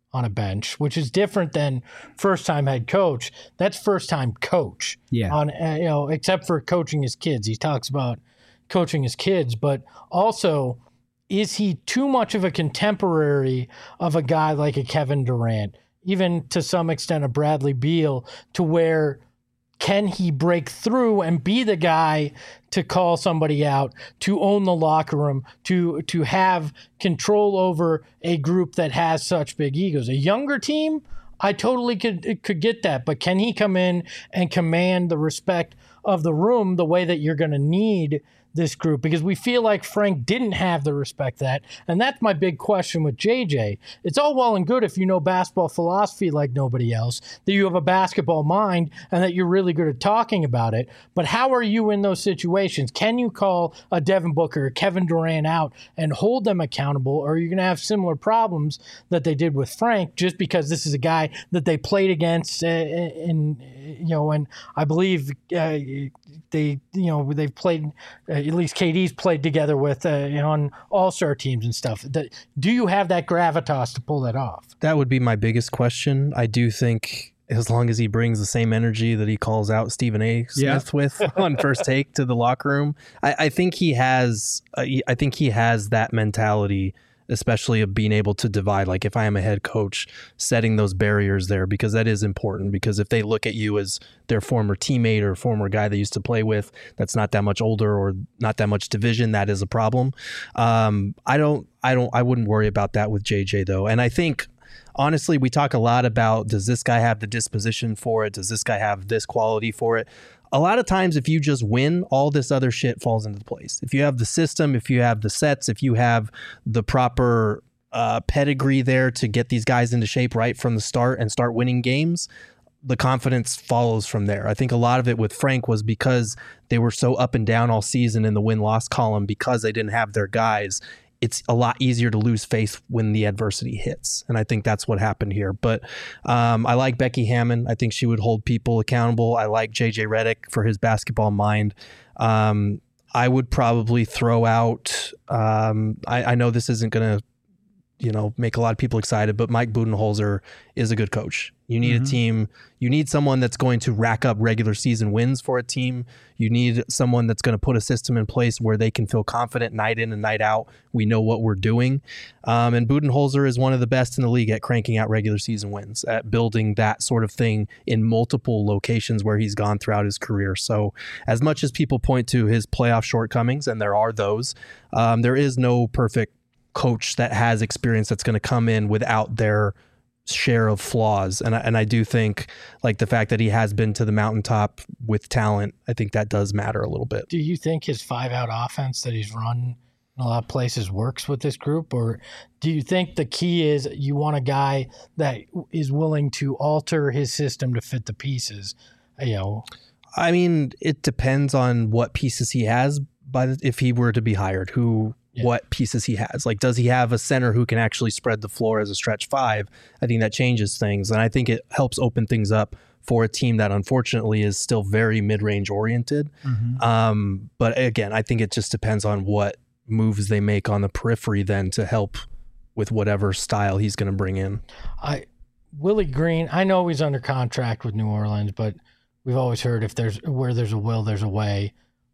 on a bench, which is different than first-time head coach. That's first-time coach. Yeah. On uh, you know, except for coaching his kids, he talks about coaching his kids, but also, is he too much of a contemporary of a guy like a Kevin Durant, even to some extent a Bradley Beal, to where can he break through and be the guy to call somebody out, to own the locker room, to to have control over a group that has such big egos? A younger team, I totally could could get that, but can he come in and command the respect of the room the way that you're going to need this group? Because we feel like Frank didn't have the respect that, and that's my big question with J J. It's all well and good if you know basketball philosophy like nobody else, that you have a basketball mind and that you're really good at talking about it, but how are you in those situations? Can you call a Devin Booker or Kevin Durant out and hold them accountable, or are you going to have similar problems that they did with Frank just because this is a guy that they played against uh, in, you know, and I believe uh, they, you know, they've played uh, at least K D's played together with uh, you know, on all-star teams and stuff. That, do you have that gravitas to pull that off? That would be my biggest question. I do think as long as he brings the same energy that he calls out Stephen A. Smith yeah. with on First Take to the locker room, I, I think he has. Uh, I think he has that mentality, especially of being able to divide. Like if I am a head coach, setting those barriers there, because that is important. Because if they look at you as their former teammate or former guy they used to play with, that's not that much older or not that much division, that is a problem. Um, I don't, I don't, I wouldn't worry about that with J J though. And I think, honestly, we talk a lot about, does this guy have the disposition for it? Does this guy have this quality for it? A lot of times, if you just win, all this other shit falls into place. If you have the system, if you have the sets, if you have the proper uh, pedigree there to get these guys into shape right from the start and start winning games, the confidence follows from there. I think a lot of it with Frank was because they were so up and down all season in the win-loss column because they didn't have their guys. It's a lot easier to lose faith when the adversity hits. And I think that's what happened here. But um, I like Becky Hammon. I think she would hold people accountable. I like J J Redick for his basketball mind. Um, I would probably throw out, um, I, I know this isn't going to, you know, make a lot of people excited, but Mike Budenholzer is a good coach. You need mm-hmm. a team. You need someone that's going to rack up regular season wins for a team. You need someone that's going to put a system in place where they can feel confident night in and night out. We know what we're doing. Um, and Budenholzer is one of the best in the league at cranking out regular season wins, at building that sort of thing in multiple locations where he's gone throughout his career. So as much as people point to his playoff shortcomings, and there are those, um, there is no perfect coach that has experience that's going to come in without their share of flaws. And I, and I do think like the fact that he has been to the mountaintop with talent, I think that does matter a little bit. Do you think his five out offense that he's run in a lot of places works with this group? Or do you think the key is you want a guy that is willing to alter his system to fit the pieces? You know, I mean, it depends on what pieces he has by the, if he were to be hired, who, Yeah. what pieces he has. Like, does he have a center who can actually spread the floor as a stretch five? I think that changes things. And I think it helps open things up for a team that unfortunately is still very mid-range oriented. Mm-hmm. Um, but again, I think it just depends on what moves they make on the periphery then to help with whatever style he's going to bring in. I Willie Green, I know he's under contract with New Orleans, but we've always heard if there's where there's a will, there's a way.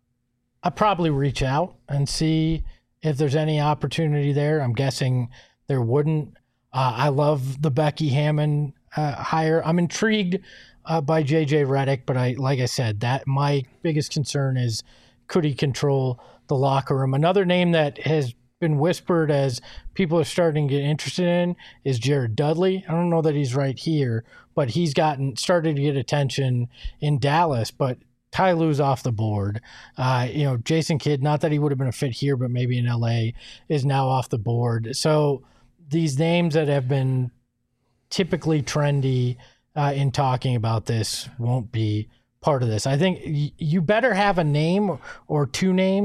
I'd probably reach out and see if there's any opportunity there. I'm guessing there wouldn't. Uh, I love the Becky Hammon uh, hire. I'm intrigued uh, by J J Redick, but I, like I said, that my biggest concern is could he control the locker room? Another name that has been whispered as people are starting to get interested in is Jared Dudley. I don't know that he's right here, but he's gotten started to get attention in Dallas, but Ty Lue's off the board. Uh, you know, Jason Kidd, not that he would have been a fit here, but maybe in L A, is now off the board. So these names that have been typically trendy uh, in talking about this won't be part of this. I think y- you better have a name or two names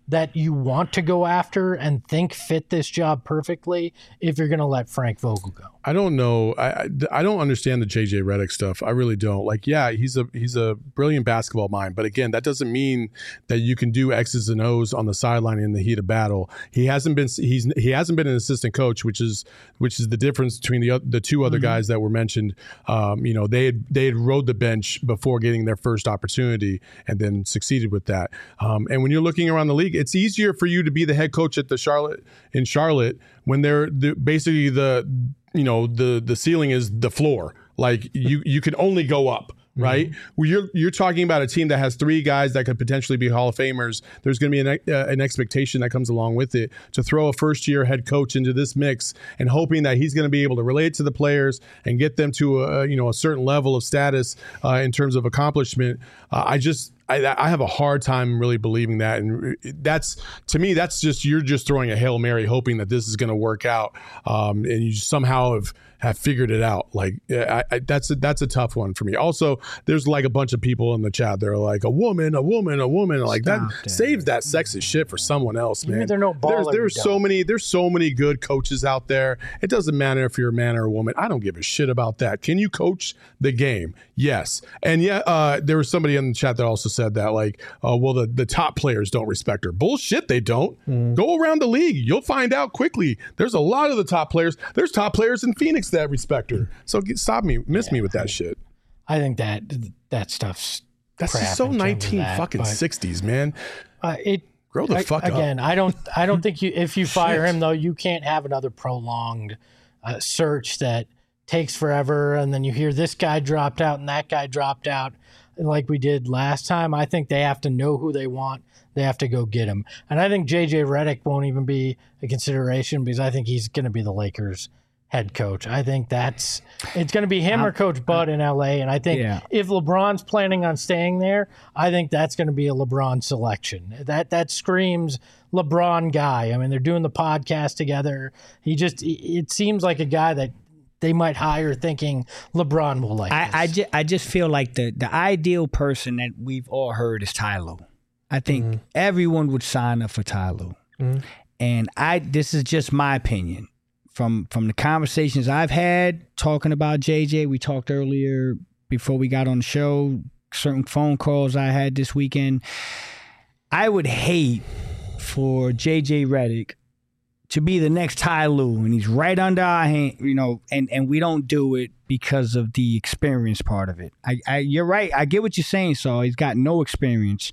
that you want to go after and think fit this job perfectly if you're going to let Frank Vogel go? I don't know. I, I I don't understand the J J Redick stuff. I really don't. Like, yeah, he's a he's a brilliant basketball mind, but again, that doesn't mean that you can do X's and O's on the sideline in the heat of battle. He hasn't been he's he hasn't been an assistant coach, which is which is the difference between the the two other mm-hmm. guys that were mentioned. Um, you know, they had they had rode the bench before getting their first opportunity and then succeeded with that. Um, and when you're looking around the league, it's easier for you to be the head coach at the Charlotte in Charlotte when they're the, basically the you know the the ceiling is the floor. Like you you can only go up. Right, mm-hmm. well, you're you're talking about a team that has three guys that could potentially be Hall of Famers. There's going to be an, uh, an expectation that comes along with it to throw a first year head coach into this mix and hoping that he's going to be able to relate to the players and get them to a you know a certain level of status uh, in terms of accomplishment. Uh, I just. I, I have a hard time really believing that, and that's to me. That's just you're just throwing a Hail Mary, hoping that this is going to work out, um, and you somehow have, have figured it out. Like I, I, that's a, that's a tough one for me. Also, there's like a bunch of people in the chat. They're like a woman, a woman, a woman. Like Stop that, that save that sexist shit for someone else, man. There no there's there's so many there's so many good coaches out there. It doesn't matter if you're a man or a woman. I don't give a shit about that. Can you coach the game? Yes, and yeah, uh, there was somebody in the chat that also said that, like, uh, well, the, the top players don't respect her. Bullshit, they don't. Mm. Go around the league. You'll find out quickly. There's a lot of the top players. There's top players in Phoenix that respect her. So get, stop me, miss yeah, me with that I mean, shit. I think that that stuff's That's just so nineteen that, fucking sixties, man. Uh, it Grow the I, fuck again, up. Again, I don't, I don't think you, if you fire him, though, you can't have another prolonged uh, search that takes forever, and then you hear this guy dropped out and that guy dropped out like we did last time. I think they have to know who they want. They have to go get him. And I think J J Redick won't even be a consideration because I think he's going to be the Lakers head coach. I think that's it's going to be him I'm, or Coach Bud in L A. And I think yeah. if LeBron's planning on staying there, I think that's going to be a LeBron selection. That that screams LeBron guy. I mean, they're doing the podcast together. He just it seems like a guy that they might hire thinking LeBron will like I, this. I, just, I just feel like the, the ideal person that we've all heard is Ty Lue. I think mm-hmm. everyone would sign up for Ty Lue. Mm-hmm. And I this is just my opinion. From from the conversations I've had talking about J J, we talked earlier before we got on the show, certain phone calls I had this weekend. I would hate for J J Redick to be the next Ty Lue, and he's right under our hand, you know, and, and we don't do it because of the experience part of it. I, I you're right. I get what you're saying, Saul. He's got no experience.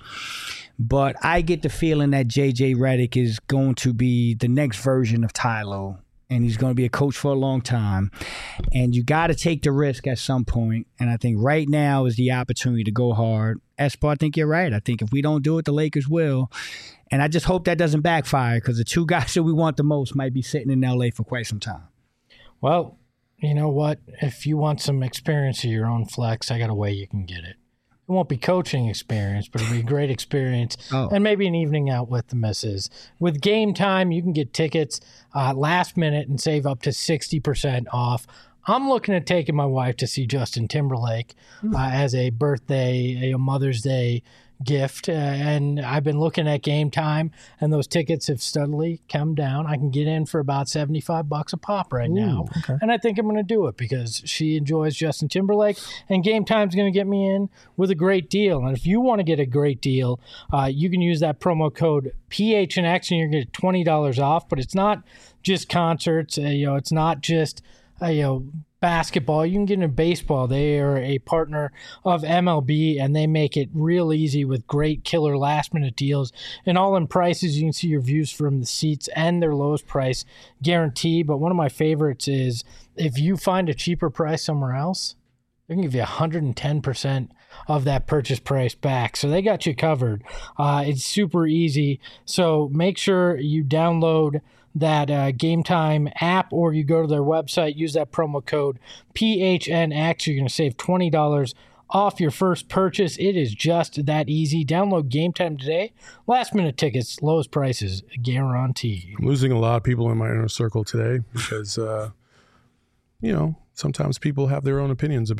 But I get the feeling that J J Redick is going to be the next version of Ty Lue, and he's going to be a coach for a long time. And you got to take the risk at some point. And I think right now is the opportunity to go hard. Espo, I think you're right. I think if we don't do it, the Lakers will. And I just hope that doesn't backfire because the two guys that we want the most might be sitting in L A for quite some time. Well, you know what? If you want some experience of your own flex, I got a way you can get it. It won't be coaching experience, but it'll be a great experience oh. and maybe an evening out with the missus. With Game Time, you can get tickets uh, last minute and save up to sixty percent off. I'm looking at taking my wife to see Justin Timberlake uh, as a birthday, a Mother's Day gift. Uh, and I've been looking at Game Time, and those tickets have steadily come down. I can get in for about seventy-five bucks a pop right Ooh, now. Okay. And I think I'm going to do it because she enjoys Justin Timberlake, and Game Time's going to get me in with a great deal. And if you want to get a great deal, uh, you can use that promo code P H N X and you're going to get twenty dollars off. But it's not just concerts. Uh, you know, it's not just uh, you know, basketball. You can get into baseball. They are a partner of M L B, and they make it real easy with great killer last-minute deals. And all in prices, you can see your views from the seats and their lowest price guarantee. But one of my favorites is if you find a cheaper price somewhere else, they can give you one hundred ten percent of that purchase price back. So they got you covered. Uh, it's super easy. So make sure you download that uh, Game Time app, or you go to their website, use that promo code P H N X. You're going to save twenty dollars off your first purchase. It is just that easy. Download Game Time today. Last minute tickets, lowest prices, guaranteed. I'm losing a lot of people in my inner circle today because, uh, you know, sometimes people have their own opinions about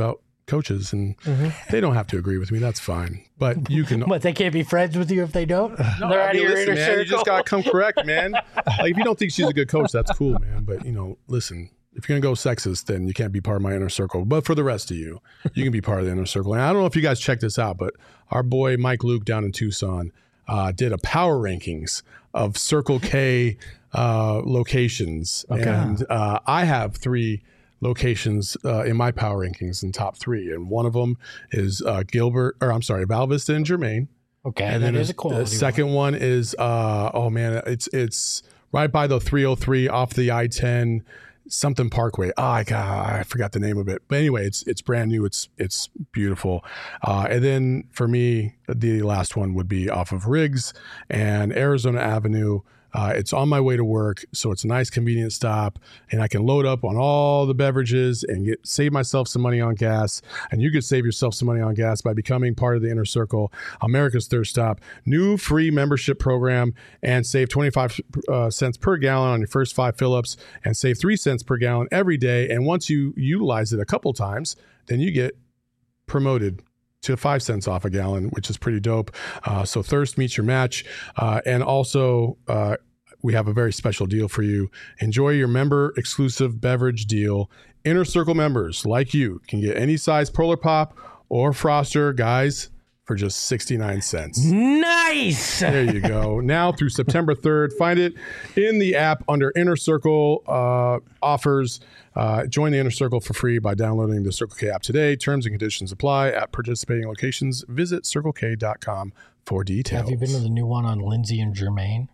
coaches, and they don't have to agree with me. That's fine. But you can. But they can't be friends with you if they don't? No, They're I out mean, of your listen, inner man, circle. you just got to come correct, man. Like, if you don't think she's a good coach, that's cool, man. But, you know, listen, if you're going to go sexist, then you can't be part of my inner circle. But for the rest of you, you can be part of the inner circle. And I don't know if you guys checked this out, but our boy Mike Luke down in Tucson uh, did a power rankings of Circle K uh, locations. Okay. And uh, I have three locations uh, in my power rankings in top three. And one of them is uh, Gilbert, or I'm sorry, Val Vista and Germain. Okay, And that then is a quality the second one is, uh, oh man, it's it's right by the three oh three off the I ten something Parkway. Oh, I got, I forgot the name of it. But anyway, it's it's brand new. It's it's beautiful. Uh, and then for me, the last one would be off of Riggs and Arizona Avenue. Uh, it's on my way to work, so it's a nice, convenient stop, and I can load up on all the beverages and get save myself some money on gas. And you could save yourself some money on gas by becoming part of the Inner Circle, America's Thirst Stop, new free membership program, and save twenty-five uh, cents per gallon on your first five fill-ups, and save three cents per gallon every day. And once you utilize it a couple times, then you get promoted to five cents off a gallon, which is pretty dope. Uh, so Thirst meets your match. Uh, and also, uh, we have a very special deal for you. Enjoy your member exclusive beverage deal. Inner Circle members like you can get any size Polar Pop or Froster, guys, for just sixty-nine cents. Nice. There you go. Now through September third, find it in the app under Inner Circle uh, offers. Uh, join the Inner Circle for free by downloading the Circle K app today. Terms and conditions apply at participating locations. Visit circle k dot com for details. Have you been to the new one on Lindsay and Germain?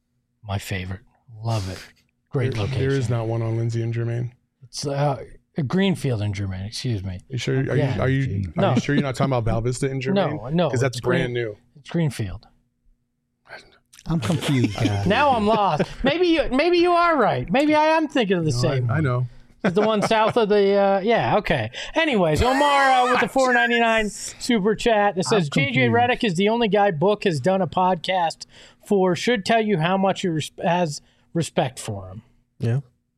My favorite. Love it. Great There- location. There is not one on Lindsay and Germain. It's uh, Greenfield and Germain, excuse me. You sure? Are Yeah. you are you, are No. you sure you're not talking about Val Vista and Germain? No, no. because that's it's brand Green- new. It's Greenfield. I'm confused, guys. Now I'm lost. Maybe you maybe you are right. Maybe I am thinking of the No, same I, I one. know. It's the one south of the uh, yeah, okay. Anyways, Omar uh, with the four ninety-nine super chat that says I'm J J confused. Redick is the only guy Book has done a podcast for. Should tell you how much he res- has respect for him. Yeah.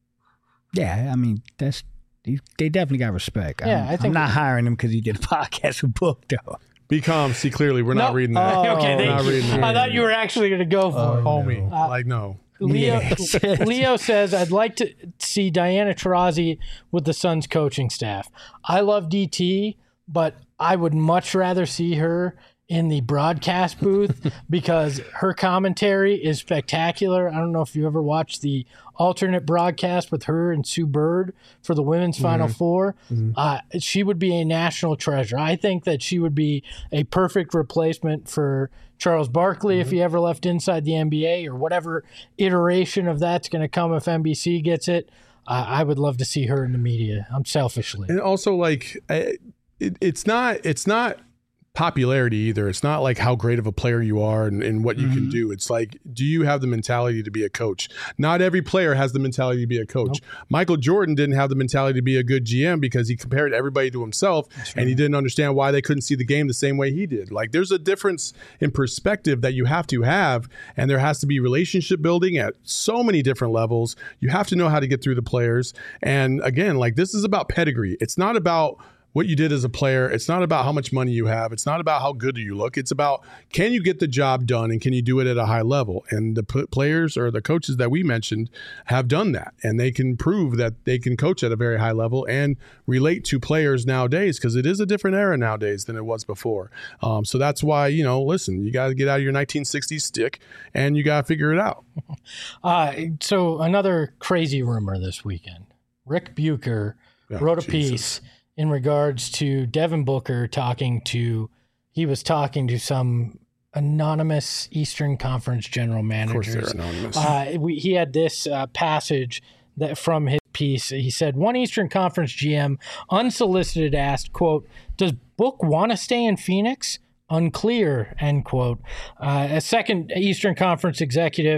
Yeah, I mean, that's they they definitely got respect. Yeah, I'm, I think- I'm not hiring him because he did a podcast with Book, though. Be calm. See clearly. We're not Nope. reading that. Oh, okay, we're thank not you. reading that. I thought you were actually going to go for it. Homie. Uh, like, no. Leo Yes. Leo says, I'd like to see Diana Taurasi with the Suns coaching staff. I love D T, but I would much rather see her in the broadcast booth because her commentary is spectacular. I don't know if you ever watched the alternate broadcast with her and Sue Bird for the women's Final Four. Uh, she would be a national treasure. I think that she would be a perfect replacement for Charles Barkley if he ever left inside the N B A or whatever iteration of that's going to come if N B C gets it. Uh, I would love to see her in the media. I'm selfishly. And also, like, I- it, it's not it's not popularity either. It's not like how great of a player you are and, and what you can do. It's like, do you have the mentality to be a coach? Not every player has the mentality to be a coach. Michael Jordan didn't have the mentality to be a good G M because he compared everybody to himself and he didn't understand why they couldn't see the game the same way he did. Like, there's a difference in perspective that you have to have, and there has to be relationship building at so many different levels. You have to know how to get through the players. And again, like, this is about pedigree. It's not about what you did as a player. It's not about how much money you have. It's not about how good you look. It's about, can you get the job done and can you do it at a high level? And the p- players or the coaches that we mentioned have done that, and they can prove that they can coach at a very high level and relate to players nowadays, because it is a different era nowadays than it was before. Um, so that's why, you know, listen, you got to get out of your nineteen sixties stick and you got to figure it out. Uh, so another crazy rumor this weekend. Rick Bucher Oh, wrote a Jesus. piece in regards to Devin Booker talking to, he was talking to some anonymous Eastern Conference general Of course managers. they're anonymous. Uh, we, he had this uh, passage that from his piece. He said, one Eastern Conference G M, unsolicited, asked, quote, does Book want to stay in Phoenix? Unclear, end quote. Uh, a second Eastern Conference executive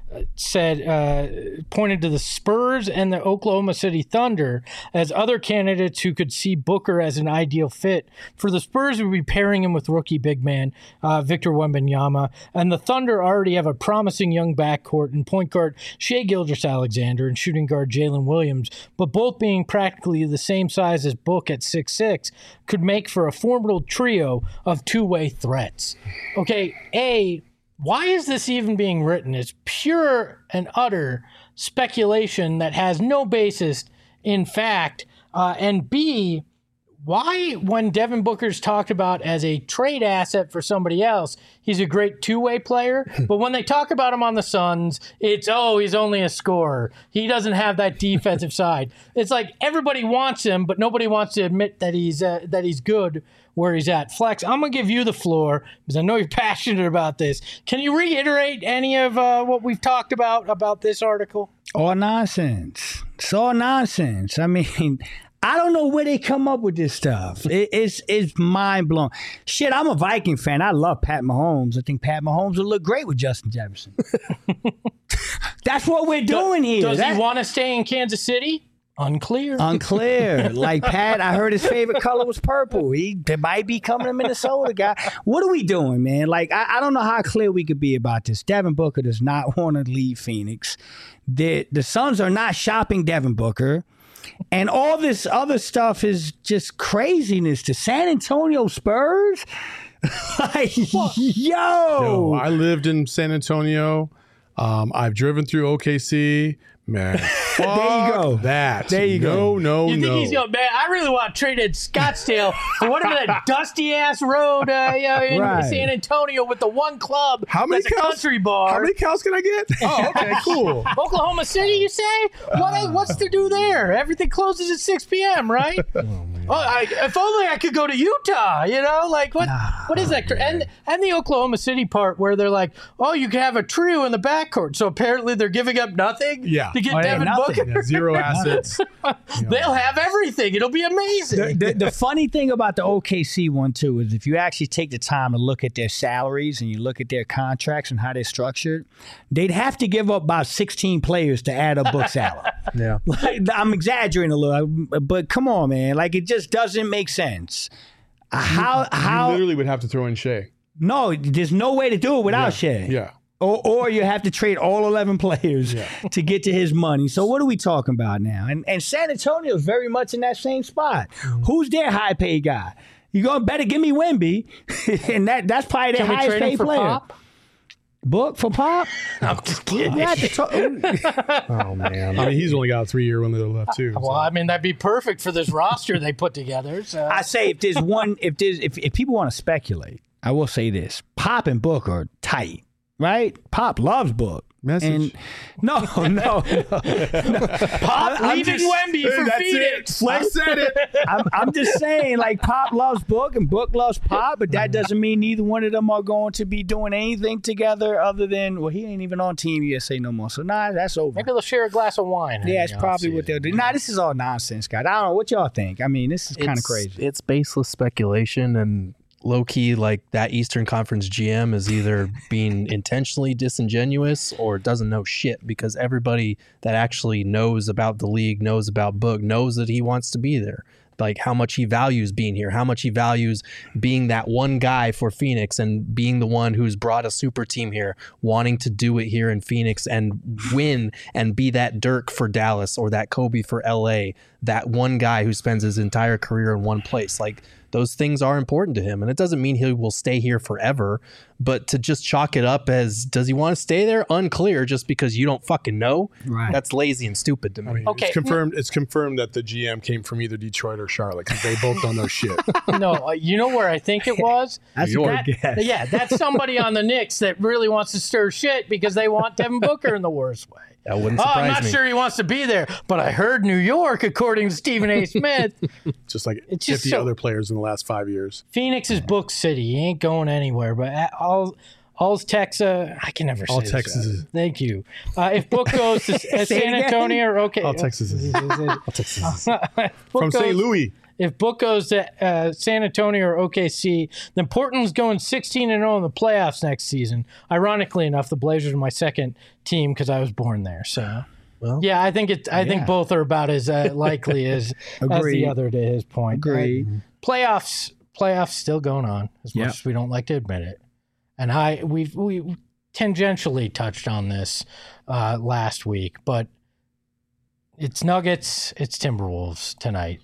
said uh, pointed to the Spurs and the Oklahoma City Thunder as other candidates who could see Booker as an ideal fit. For the Spurs, we'd be pairing him with rookie big man uh, Victor Wembanyama, and the Thunder already have a promising young backcourt in point guard Shai Gilgeous-Alexander and shooting guard Jalen Williams, but both being practically the same size as Book at six six could make for a formidable trio of two-way threats. Okay, A, why is this even being written? It's pure and utter speculation that has no basis in fact. Uh, and B, why, when Devin Booker's talked about as a trade asset for somebody else, he's a great two-way player, but when they talk about him on the Suns, it's, oh, he's only a scorer. He doesn't have that defensive side. It's like everybody wants him, but nobody wants to admit that he's uh, that he's good where he's at. Flex, I'm going to give you the floor because I know you're passionate about this. Can you reiterate any of uh, what we've talked about about this article? All nonsense. It's all nonsense. I mean, I don't know where they come up with this stuff. It, it's it's mind blowing. Shit, I'm a Viking fan. I love Pat Mahomes. I think Pat Mahomes will look great with Justin Jefferson. That's what we're doing Do, here. Does that, he want to stay in Kansas City? Unclear. Unclear. Like Pat, I heard his favorite color was purple. He might be coming to Minnesota, guy. What are we doing, man? Like, I, I don't know how clear we could be about this. Devin Booker does not want to leave Phoenix. The, the Suns are not shopping Devin Booker. And all this other stuff is just craziness. The San Antonio Spurs? Like, yo. Yo, I lived in San Antonio. Um, I've driven through O K C. Man, there you go. That there you no, go. No, no, You think no. he's going, man, I really want to trade in Scottsdale for whatever that dusty ass road uh, yeah, in Right. San Antonio with the one club How many that's a cows? country bar. How many cows can I get? Oh, okay, cool. Oklahoma City, you say? What? What's to do there? Everything closes at six p.m., right? Oh, I, if only I could go to Utah, you know? Like, what? Nah, what is that? And and the Oklahoma City part where they're like, oh, you can have a trio in the backcourt. So apparently they're giving up nothing Yeah. to get Oh, yeah, Devin nothing. Booker. Yeah, zero assets. They'll have everything. It'll be amazing. The, the, the funny thing about the O K C one, too, is if you actually take the time to look at their salaries and you look at their contracts and how they're structured, they'd have to give up about sixteen players to add a book salary. Yeah. Like, I'm exaggerating a little, but come on, man. Like, it just doesn't make sense. How, You how, literally would have to throw in Shea. no, there's no way to do it without Yeah. Shea. Yeah. Or, or you have to trade all eleven players Yeah. to get to his money. So what are we talking about now? And and San Antonio is very much in that same spot. Mm-hmm. Who's their high paid guy? You gonna better give me Wemby, and that that's probably their Can we highest trade him paid for player. Pop? Book for Pop? I'm just kidding. We have to talk- Oh man. I mean, he's only got a three year window left too. Well, I mean, that'd be perfect for this roster they put together. So. I say if there's one, if there's if, if people want to speculate, I will say this: Pop and Book are tight, right? Pop loves Book. Message. And no, no, no. Pop I'm leaving just- Wemby for That's Phoenix. it. Flex said it. I'm, I'm just saying, like, Pop loves Book and Book loves Pop, but that doesn't mean neither one of them are going to be doing anything together other than, well, he ain't even on Team U S A no more. So, nah, that's over. Maybe they'll share a glass of wine. Yeah, it's you know, probably see. what they'll do. Nah, this is all nonsense, guys. I don't know what y'all think. I mean, this is kind of It's- crazy. It's baseless speculation and low key, like that Eastern Conference G M is either being intentionally disingenuous or doesn't know shit, because everybody that actually knows about the league, knows about Book, knows that he wants to be there. Like how much he values being here, how much he values being that one guy for Phoenix and being the one who's brought a super team here, wanting to do it here in Phoenix and win and be that Dirk for Dallas or that Kobe for L A, that one guy who spends his entire career in one place. Like those things are important to him. And it doesn't mean he will stay here forever, but to just chalk it up as, does he want to stay there? Unclear, just because you don't fucking know. Right. That's lazy and stupid to me. I mean, Okay. it's confirmed. It's confirmed that the G M came from either Detroit or Charlotte because they both don't know shit. No, uh, you know where I think it was? That's New a York. good guess. Yeah, that's somebody on the Knicks that really wants to stir shit because they want Devin Booker in the worst way. That wouldn't Oh, surprise I'm not me. sure he wants to be there, but I heard New York, according to Stephen A. Smith. Just like It's just fifty so- other players in the last five years. Phoenix is Book City. He ain't going anywhere. But at all, all's Texas. I can never say All this. Texas is- Thank you. Uh, if Book goes to uh, Say it San again. Antonio, or okay. All Texas is- Book From goes- Saint Louis. if Book goes to uh, San Antonio or O K C, then Portland's going sixteen and oh in the playoffs next season. Ironically enough, the Blazers are my second team because I was born there. So, Well, yeah, I think it. I yeah. think both are about as uh, likely as, as the Agreed. other. To his point, Agreed. Uh, playoffs, playoffs still going on as Yep. much as we don't like to admit it. And I we've we tangentially touched on this uh, last week, but it's Nuggets, it's Timberwolves tonight.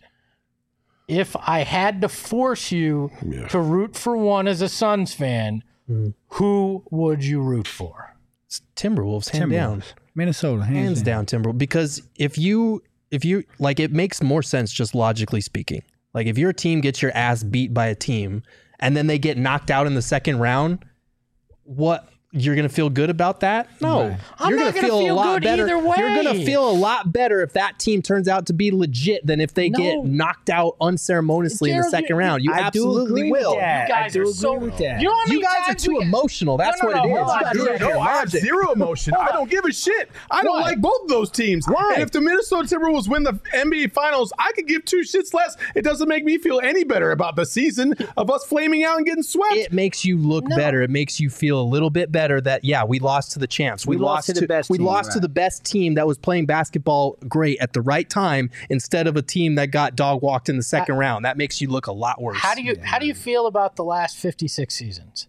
If I had to force you Yeah. to root for one as a Suns fan, Mm. who would you root for? It's Timberwolves, hands down. Timberwolves. Minnesota, hands, Hands down, Timberwolves. Because if you, if you, like, it makes more sense just logically speaking. Like, if your team gets your ass beat by a team and then they get knocked out in the second round, what? You're going to feel good about that? No. Right. I'm You're not gonna gonna feel, feel a lot good better. either way. You're going to feel a lot better if that team turns out to be legit than if they No. get knocked out unceremoniously in the Gerald, second you- round. You I do absolutely agree with will. that. You I guys do are agree so. with that. You know how many You guys are times too we- emotional. That's No, no, what no, it is. hold on, You guys dude. are No, I have logic. zero emotion. I don't give a shit. I don't Why? like both of those teams. Why? And if the Minnesota Timberwolves win the N B A Finals, I could give two shits less. It doesn't make me feel any better about the season of us flaming out and getting swept. It makes you look No. better. It makes you feel a little bit better that yeah, we lost to the champs. We, We lost to the best We team, lost to right. the best team that was playing basketball great at the right time instead of a team that got dog walked in the second round. That makes you look a lot worse. How do you how do you feel about the last fifty-six seasons?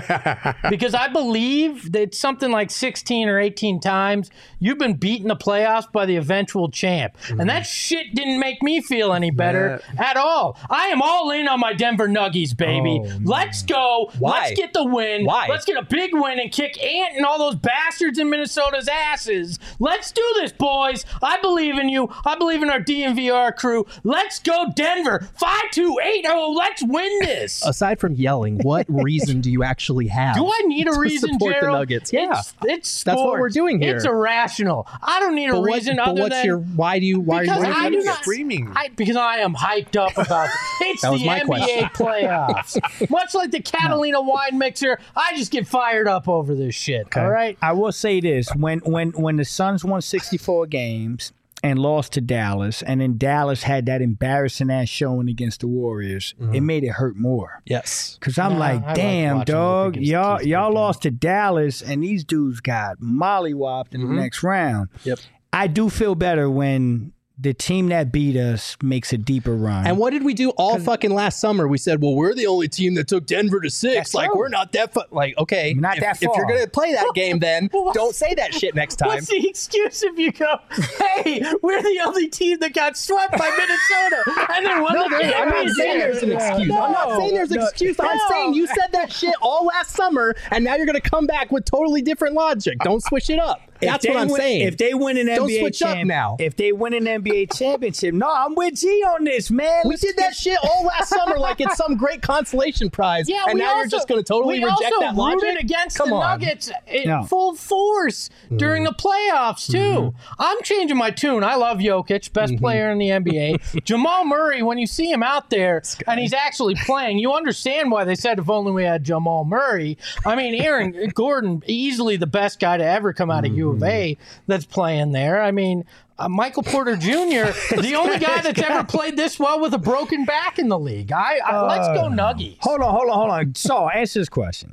Because I believe that something like sixteen or eighteen times you've been beaten the playoffs by the eventual champ. And that shit didn't make me feel any better at all. I am all in on my Denver Nuggets, baby. Oh, Let's go. Why? Let's get the win. Why? Let's get a big win and kick Ant and all those bastards in Minnesota's asses. Let's do this, boys. I believe in you. I believe in our D N V R crew. Let's go, Denver. five two eight oh. Let's win this. Aside from yelling, what reason do you actually have? Do I need a to reason, support Gerald? the Nuggets? Yeah. It's, it's That's what we're sports. doing here. It's irrational. I don't need a but what- reason but other what's than your why do you why because are you I do Nuggets not screaming? I, because I am hyped up about it. It's That was the my N B A question. playoffs. Much like the Catalina wine mixer, I just get fired up over this shit. All right. I will say this: when when when the Suns won sixty-four games and lost to Dallas, and then Dallas had that embarrassing ass showing against the Warriors, it made it hurt more. Yes. Cause I'm Nah, I like, like damn, watching dog, Wiggins y'all keep y'all picking. lost to Dallas, and these dudes got mollywopped in the next round. Yep. I do feel better when the team that beat us makes a deeper run. And what did we do all fucking last summer? We said, well, we're the only team that took Denver to six. That's Like, true. we're not that fu-. Like, okay. Not if, that if you're far. going to play that game, then don't say that shit next time. What's the excuse if you go, hey, we're the only team that got swept by Minnesota and then won No, the there- I'm not championship? saying there's an excuse. I'm not saying there's an No, excuse. I'm no. saying you said that shit all last summer, and now you're going to come back with totally different logic. Don't switch it up. If That's they what I'm win- saying. If they win an Don't N B A switch up champ- now. If they win an N B A championship, no, I'm with G on this, man. we Let's did that shit all last summer like it's some great consolation prize. Yeah, and we now also, you're just going to totally we reject also that logic? rooted against Come the on. Nuggets in No. full force during the playoffs too. Mm-hmm. I'm changing my tune. I love Jokic, best player in the N B A. Jamal Murray, when you see him out there and he's actually playing, you understand why they said if only we had Jamal Murray. I mean, Aaron Gordon, easily the best guy to ever come out of U of A that's playing there. I mean. Uh, Michael Porter Junior, the only guy that's ever played this well with a broken back in the league. I, I let's go Nuggies. Hold on, hold on, hold on. So, answer this question.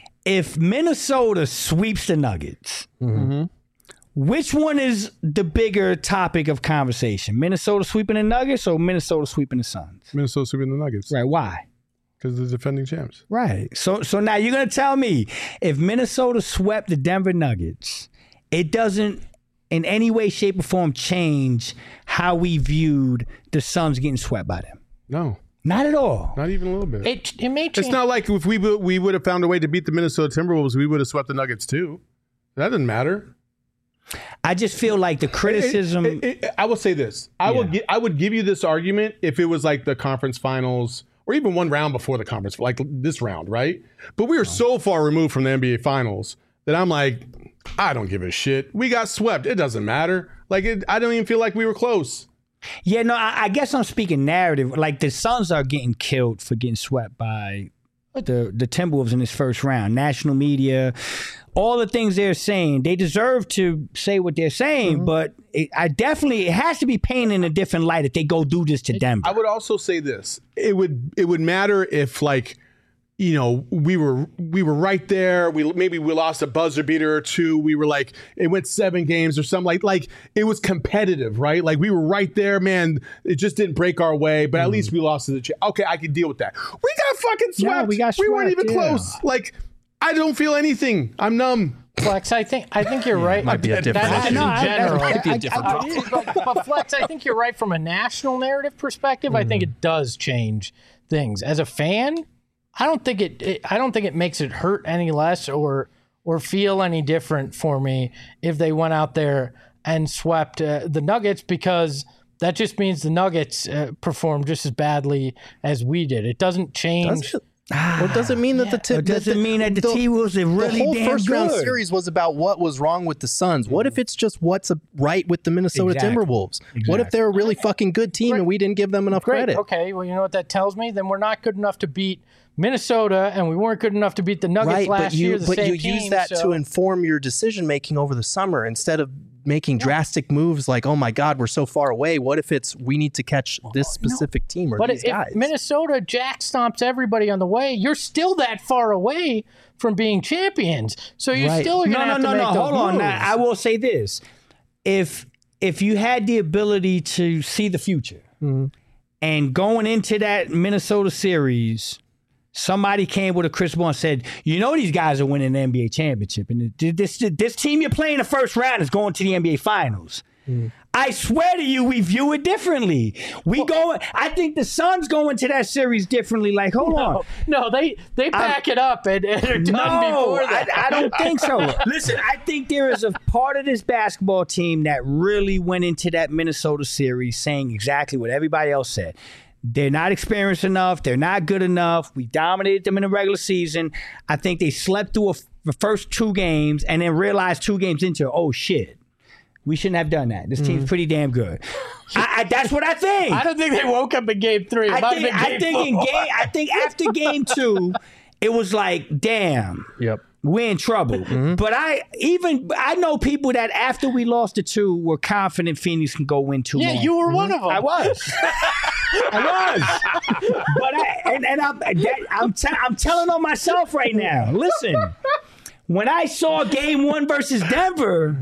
If Minnesota sweeps the Nuggets, which one is the bigger topic of conversation? Minnesota sweeping the Nuggets or Minnesota sweeping the Suns? Minnesota sweeping the Nuggets Right, why? because they're defending champs. Right. So so now you're going to tell me if Minnesota swept the Denver Nuggets, it doesn't in any way, shape, or form change how we viewed the Suns getting swept by them. No, Not at all. not even a little bit. It, it may change. It's not like if we would- we would have found a way to beat the Minnesota Timberwolves, we would have swept the Nuggets too. That doesn't matter. I just feel like the criticism. It- it- it- I will say this: I would Yeah. gi- I would give you this argument if it was like the conference finals or even one round before the conference, like this round, right? But we are so far removed from the N B A finals that I'm like, I don't give a shit. We got swept. It doesn't matter. Like it, I don't even feel like we were close. Yeah, no, I, I guess I'm speaking narrative. Like the Suns are getting killed for getting swept by the the Timberwolves in this first round. National media, all the things they're saying, they deserve to say what they're saying, mm-hmm. but it, I definitely it has to be painted in a different light if they go do this to Denver. I would also say this: it would it would matter if like. You know, we were we were right there. We maybe we lost a buzzer beater or two. We were like, it went seven games or something. Like, like it was competitive, right? Like we were right there, man. It just didn't break our way, but at mm. least we lost to the. Ch- okay, I can deal with that. We got fucking swept. Yeah, we got swept. We weren't even yeah. close. Like, I don't feel anything. I'm numb. Flex, I think I think you're yeah, right. Might be a different. That is no, in general. Might be a different. I, I, but, but Flex, I think you're right from a national narrative perspective. Mm. I think it does change things. As a fan, I don't think it, it. I don't think it makes it hurt any less or or feel any different for me if they went out there and swept uh, the Nuggets, because that just means the Nuggets uh, performed just as badly as we did. It doesn't change. Does it? Well, it doesn't mean that the t- it doesn't that the, mean that the, the T-Wolves are really the whole damn first good. round series was about what was wrong with the Suns. What if it's just what's right with the Minnesota exactly. Timberwolves? Exactly. What if they're a really fucking good team Great. and we didn't give them enough Great. credit? Okay, well, you know what that tells me? Then we're not good enough to beat Minnesota, and we weren't good enough to beat the Nuggets right, last but you, year. The but same you team, use that so. to inform your decision making over the summer instead of making yeah. drastic moves like, oh my God, we're so far away. What if it's we need to catch this specific no. team or but these if guys? Minnesota jack stomps everybody on the way, you're still that far away from being champions. So you right. still are going to no, have no, to no, make no. those Hold on. moves. Now, I will say this: if if you had the ability to see the future, mm-hmm. and going into that Minnesota series, somebody came with a crystal ball and said, you know these guys are winning the N B A championship. And this, this, this team you're playing the first round is going to the N B A finals. Mm. I swear to you, we view it differently. We well, go. I think the Suns go into that series differently. Like, hold no, on. No, they they pack I, it up and, and are done no, before that. I, I don't think so. Listen, I think there is a part of this basketball team that really went into that Minnesota series saying exactly what everybody else said. They're not experienced enough. They're not good enough. We dominated them in the regular season. I think they slept through a, the first two games and then realized two games into, oh, shit. We shouldn't have done that. This mm. team's pretty damn good. I, I, that's what I think. I don't think they woke up in game three. It I might think, have been game I think four. in game. I think after game two, it was like, damn. Yep. We're in trouble. Mm-hmm. But I even I know people that after we lost the two were confident Phoenix can go win two Yeah, more. you were Mm-hmm. one of them. I was. I was. But I and, and I'm that, I'm, t- I'm telling on myself right now. Listen, when I saw game one versus Denver,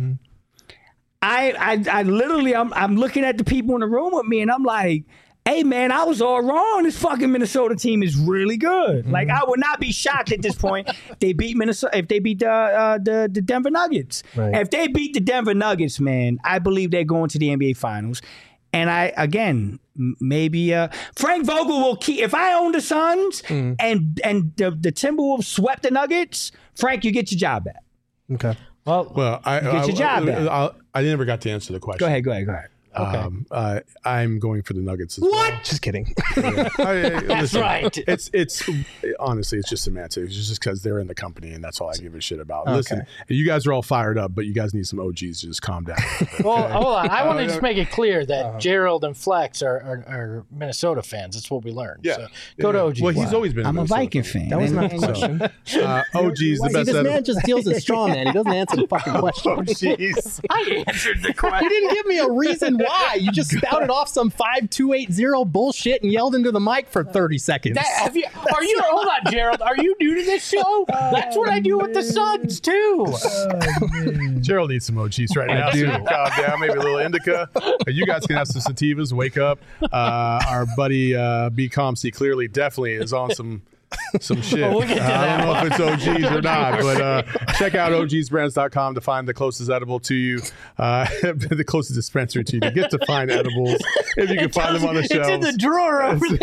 I I, I literally I'm I'm looking at the people in the room with me and I'm like, hey, man, I was all wrong. This fucking Minnesota team is really good. Mm-hmm. Like, I would not be shocked at this point if they beat Minnesota, if they beat the uh, the, the Denver Nuggets. Right. If they beat the Denver Nuggets, man, I believe they're going to the N B A Finals. And I, again, maybe uh, Frank Vogel will keep. If I own the Suns mm-hmm. and and the, the Timberwolves swept the Nuggets, Frank, you get your job back. Okay. Well, well, I get your I, job I, back. I, I never got to answer the question. Go ahead. Go ahead. Go ahead. Okay. Um, uh, I'm going for the Nuggets as what? well. Just kidding. Yeah. I, I, that's listen, right. It's it's honestly, it's just semantics. It's just because they're in the company, and that's all I give a shit about. Okay. Listen, you guys are all fired up, but you guys need some O Gs to just calm down. Okay? Well, hold on. I want to just make it clear that uh-huh. Gerald and Flex are, are, are Minnesota fans. That's what we learned. Yeah. So go yeah. to O G. Well, he's always been. I'm a, a Viking fan. That was not the question. So, uh, O G's the See, best. this man just deals in straw man. He doesn't answer the fucking question. Oh, jeez. I answered the question. You didn't give me a reason why. You just spouted off some five two eight zero bullshit and yelled into the mic for thirty seconds. That, have you, are you? Hold on, Gerald. Are you new to this show? That's what I do with the Suns too. Oh, Gerald needs some O Gs right now. So calm down, maybe a little indica. You guys can have some sativas. Wake up. Uh, our buddy uh, B Com C clearly definitely is on some. Some shit. Well, we'll get to uh, I don't know one. if it's O Gs or not, but uh, check out O Gs brands dot com to find the closest edible to you, uh, the closest dispensary to you to get to find edibles if you can find them on the shelves. It's in the drawer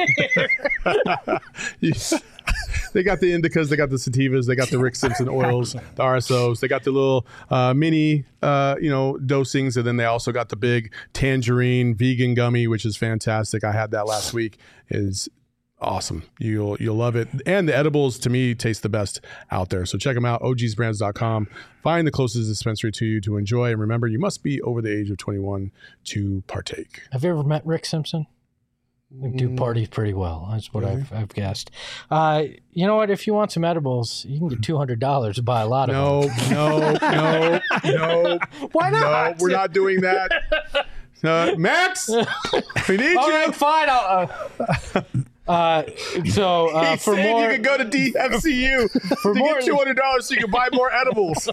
over there. you, they got the indicas, they got the sativas, they got the Rick Simpson oils, the R S Os, they got the little uh, mini, uh, you know, dosings, and then they also got the big tangerine vegan gummy, which is fantastic. I had that last week. Is awesome. You'll you'll love it. And the edibles, to me, taste the best out there. So check them out, O Gs brands dot com. Find the closest dispensary to you to enjoy. And remember, you must be over the age of twenty-one to partake. Have you ever met Rick Simpson? We do parties pretty well. That's what I've, I've guessed. Uh, you know what? If you want some edibles, you can get two hundred dollars to buy a lot of No, them. no, no, no. Why No, not? we're not doing that. Uh, Max, we need All you. right, fine. I'll, uh, uh, so uh, He for said more, you could go to D F C U For to more- get two hundred dollars so you can buy more edibles.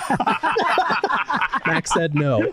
Max said no.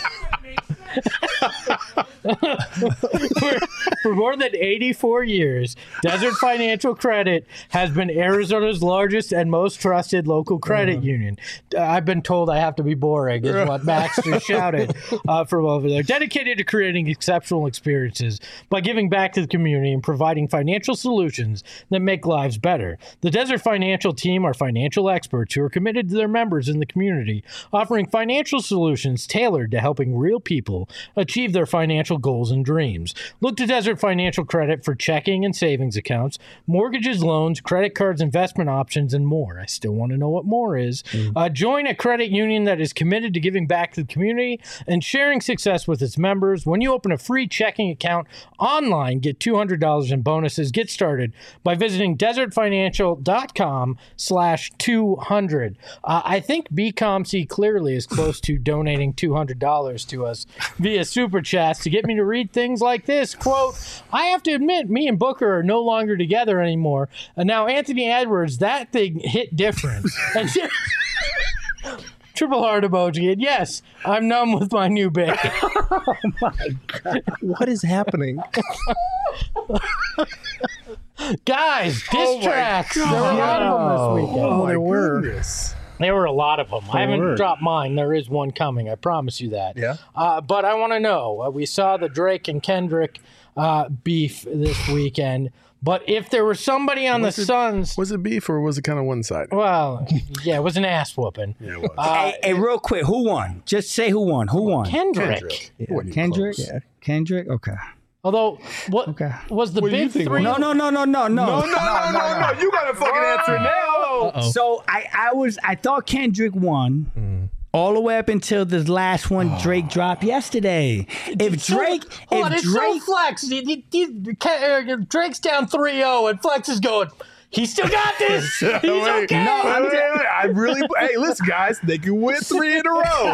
for, for more than eighty-four years, Desert Financial Credit has been Arizona's largest and most trusted local credit Uh-huh. union. Uh, I've been told I have to be boring, is what Max just shouted uh, from over there. Dedicated to creating exceptional experiences by giving back to the community and providing financial solutions that make lives better. The Desert Financial team are financial experts who are committed to their members in the community, offering financial solutions tailored to helping real people achieve their financial goals and dreams. Look to Desert Financial Credit for checking and savings accounts, mortgages, loans, credit cards, investment options, and more. I still want to know what more is. Mm. Uh, join a credit union that is committed to giving back to the community and sharing success with its members. When you open a free checking account online, get two hundred dollars in bonuses. Get started by visiting desertfinancial.com slash 200. Uh, I think B COMC clearly is close to donating two hundred dollars to us via Super Chats to get me to read things like this. Quote, I have to admit, me and Booker are no longer together anymore. And now Anthony Edwards, that thing hit different. And triple heart emoji. And yes, I'm numb with my new baby. Oh my God. What is happening? Guys, diss tracks. There were a lot of them this weekend. Oh, there were. goodness. There were a lot of them. I haven't word. dropped mine. There is one coming. I promise you that. Yeah. Uh, but I want to know. Uh, we saw the Drake and Kendrick uh, beef this weekend. But if there was somebody on Was the it- Suns, Was it beef or was it kind of one-sided? well, yeah, it was an ass whooping. Yeah, it was. Uh, Hey, hey, real quick, who won? Just say who won. Who won? Kendrick. Kendrick. It wasn't even Kendrick? close. Yeah. Kendrick? Okay. Although, what Okay. was the What do you big think, three? No, no, no, no, no, no. No, no, no, no, no, no. You got to fucking answer now. Uh-oh. So I, I was, I thought Kendrick won. All the way up until this last one Drake dropped yesterday. If Drake, Hold on, if it's Drake, so Flex. He- he- he- uh, Drake's down three oh, and Flex is going, he still got this. He's Wait, okay. No, wait, wait, wait. I really. Hey, listen, guys. They can win three in a row.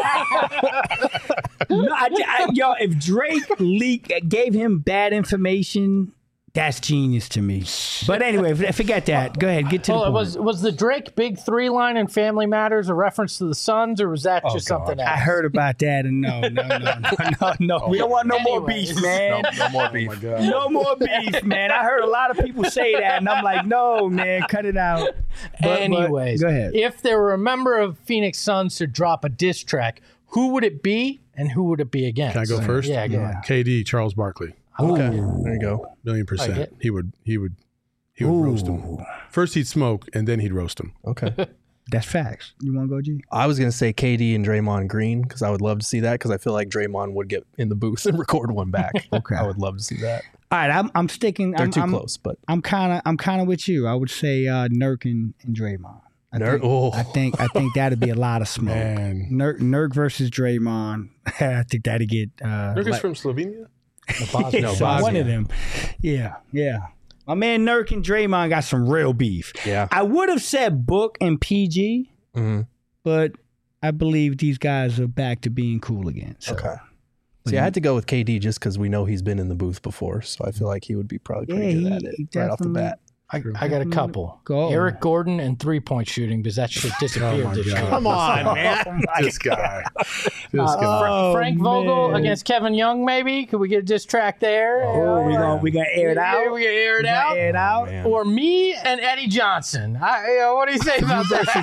no, I, I, yo, if Drake leak gave him bad information, that's genius to me. But anyway, f- forget that. Go ahead, get to Hold the on, point. was was the Drake big three line in Family Matters a reference to the Suns, or was that just something else? I heard about that, and no, no, no, no, no, no. We don't want no more Anyways. beef, man. No more beef. Oh my God. No more beef, man. I heard a lot of people say that, and I'm like, no, man, cut it out. But- but- Anyways, go ahead. if there were a member of Phoenix Suns to drop a diss track, who would it be, and who would it be against? Can I go first? Yeah, go Yeah. ahead. K D, Charles Barkley, Okay. There you go. million Like percent. it. He would. He would. He would roast him. First he'd smoke, and then he'd roast him. Okay. That's facts. You want to go, G? I was going to say K D and Draymond Green because I would love to see that because I feel like Draymond would get in the booth and record one back. Okay. I would love to see that. All right, I'm, I'm sticking. They're I'm, too I'm, close, but I'm kind of, I'm kind of with you. I would say uh, Nurk and, and Draymond. I Nurk- think, oh. I think, I think that'd be a lot of smoke. Man. Nurk, Nurk versus Draymond. I think that'd get. Uh, Nurk is like- from Slovenia. Bosnia. No, so one Bosnia. of them. Yeah, yeah. My man Nurk and Draymond got some real beef. yeah. I would have said Book and P G, hmm but I believe these guys are back to being cool again. So. Okay. See, I had to go with K D just because we know he's been in the booth before, so I feel like he would be probably pretty Yeah, good he- at it he right off the definitely- bat. I, I got a couple. Go. Eric Gordon and three point shooting because that shit disappeared Oh my this God. year. Come on, man. This guy. This Uh, guy. Oh, Frank Vogel man. against Kevin Young, maybe? Could we get a diss track there? Oh, we gonna we gonna air it out. We gonna air it We gonna out. Air it out. Man. Or me and Eddie Johnson. I, you know, what do you say about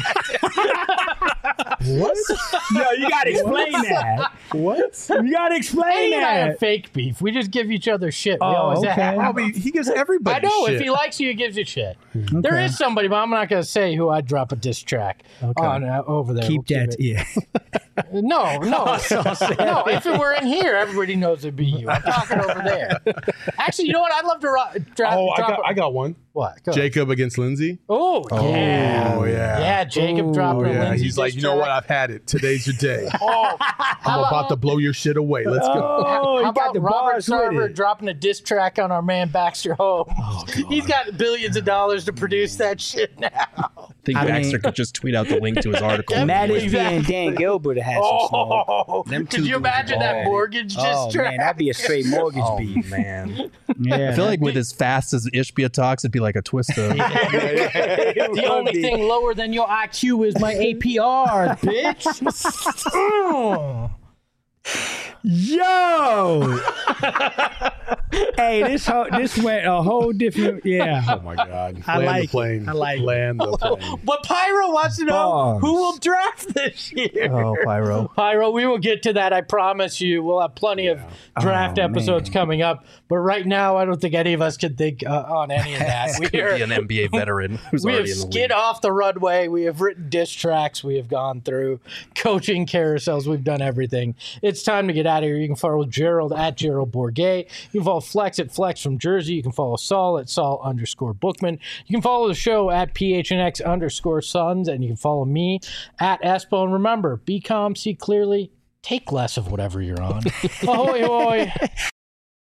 that? What? Yo, you gotta explain that. What? You gotta explain Eddie and I have that. fake beef. We just give each other shit. We Oh, always okay. have. I mean, he gives everybody I know. shit. If he likes you, he gives you shit. There Okay. is somebody, but I'm not going to say who I'd drop a diss track on uh, over there. Keep We'll that. it- Yeah. No, no, no. If it were in here, everybody knows it'd be you. I'm talking over there. Actually, you know what? I'd love to ro- drop. Oh, I drop got, a- I got one. What? Go. Jacob against Lindsay. Oh, yeah. Oh, yeah. Yeah, Jacob Ooh. dropping Oh, a yeah. Lindsay He's like, diss you know what? track. I've had it. Today's your day. Oh, I'm about to blow your shit away. Let's go. Oh, How he got about the Robert bars with Sarver it. dropping a diss track on our man Baxter Holmes? Oh, He's got billions of dollars to produce that shit now. I think I Baxter mean- could just tweet out the link to his article. That Matt is- is and Dan Gilbert had some smoke. Oh, Them could two you imagine that dudes. mortgage diss Oh track? man, that'd be a straight mortgage Oh beef. man, Yeah, I feel like with as fast as Ishbia talks, it'd be like a twist of. The only thing lower than your I Q is my A P R, bitch. Mm. Yo, hey, this whole, this went a whole different. Yeah, Oh, my God. I Land like the it. plane. I like it. Land the plane. But Pyro wants to know Bars. who will draft this year. Oh, Pyro. Pyro, we will get to that. I promise you. We'll have plenty of draft Oh, episodes man. coming up. But right now, I don't think any of us can think uh, on any of that. We Could are, be an N B A veteran who's we have already in the skid league. off the runway. We have written diss tracks. We have gone through coaching carousels. We've done everything. It's time to get out of here. You can follow Gerald at Gerald Bourget. You can follow Flex at Flex from Jersey. You can follow Saul at Saul underscore Bookman. You can follow the show at P H N X underscore Sons. And you can follow me at Espo. And remember, be calm, see clearly, take less of whatever you're on. Ahoy, hoy.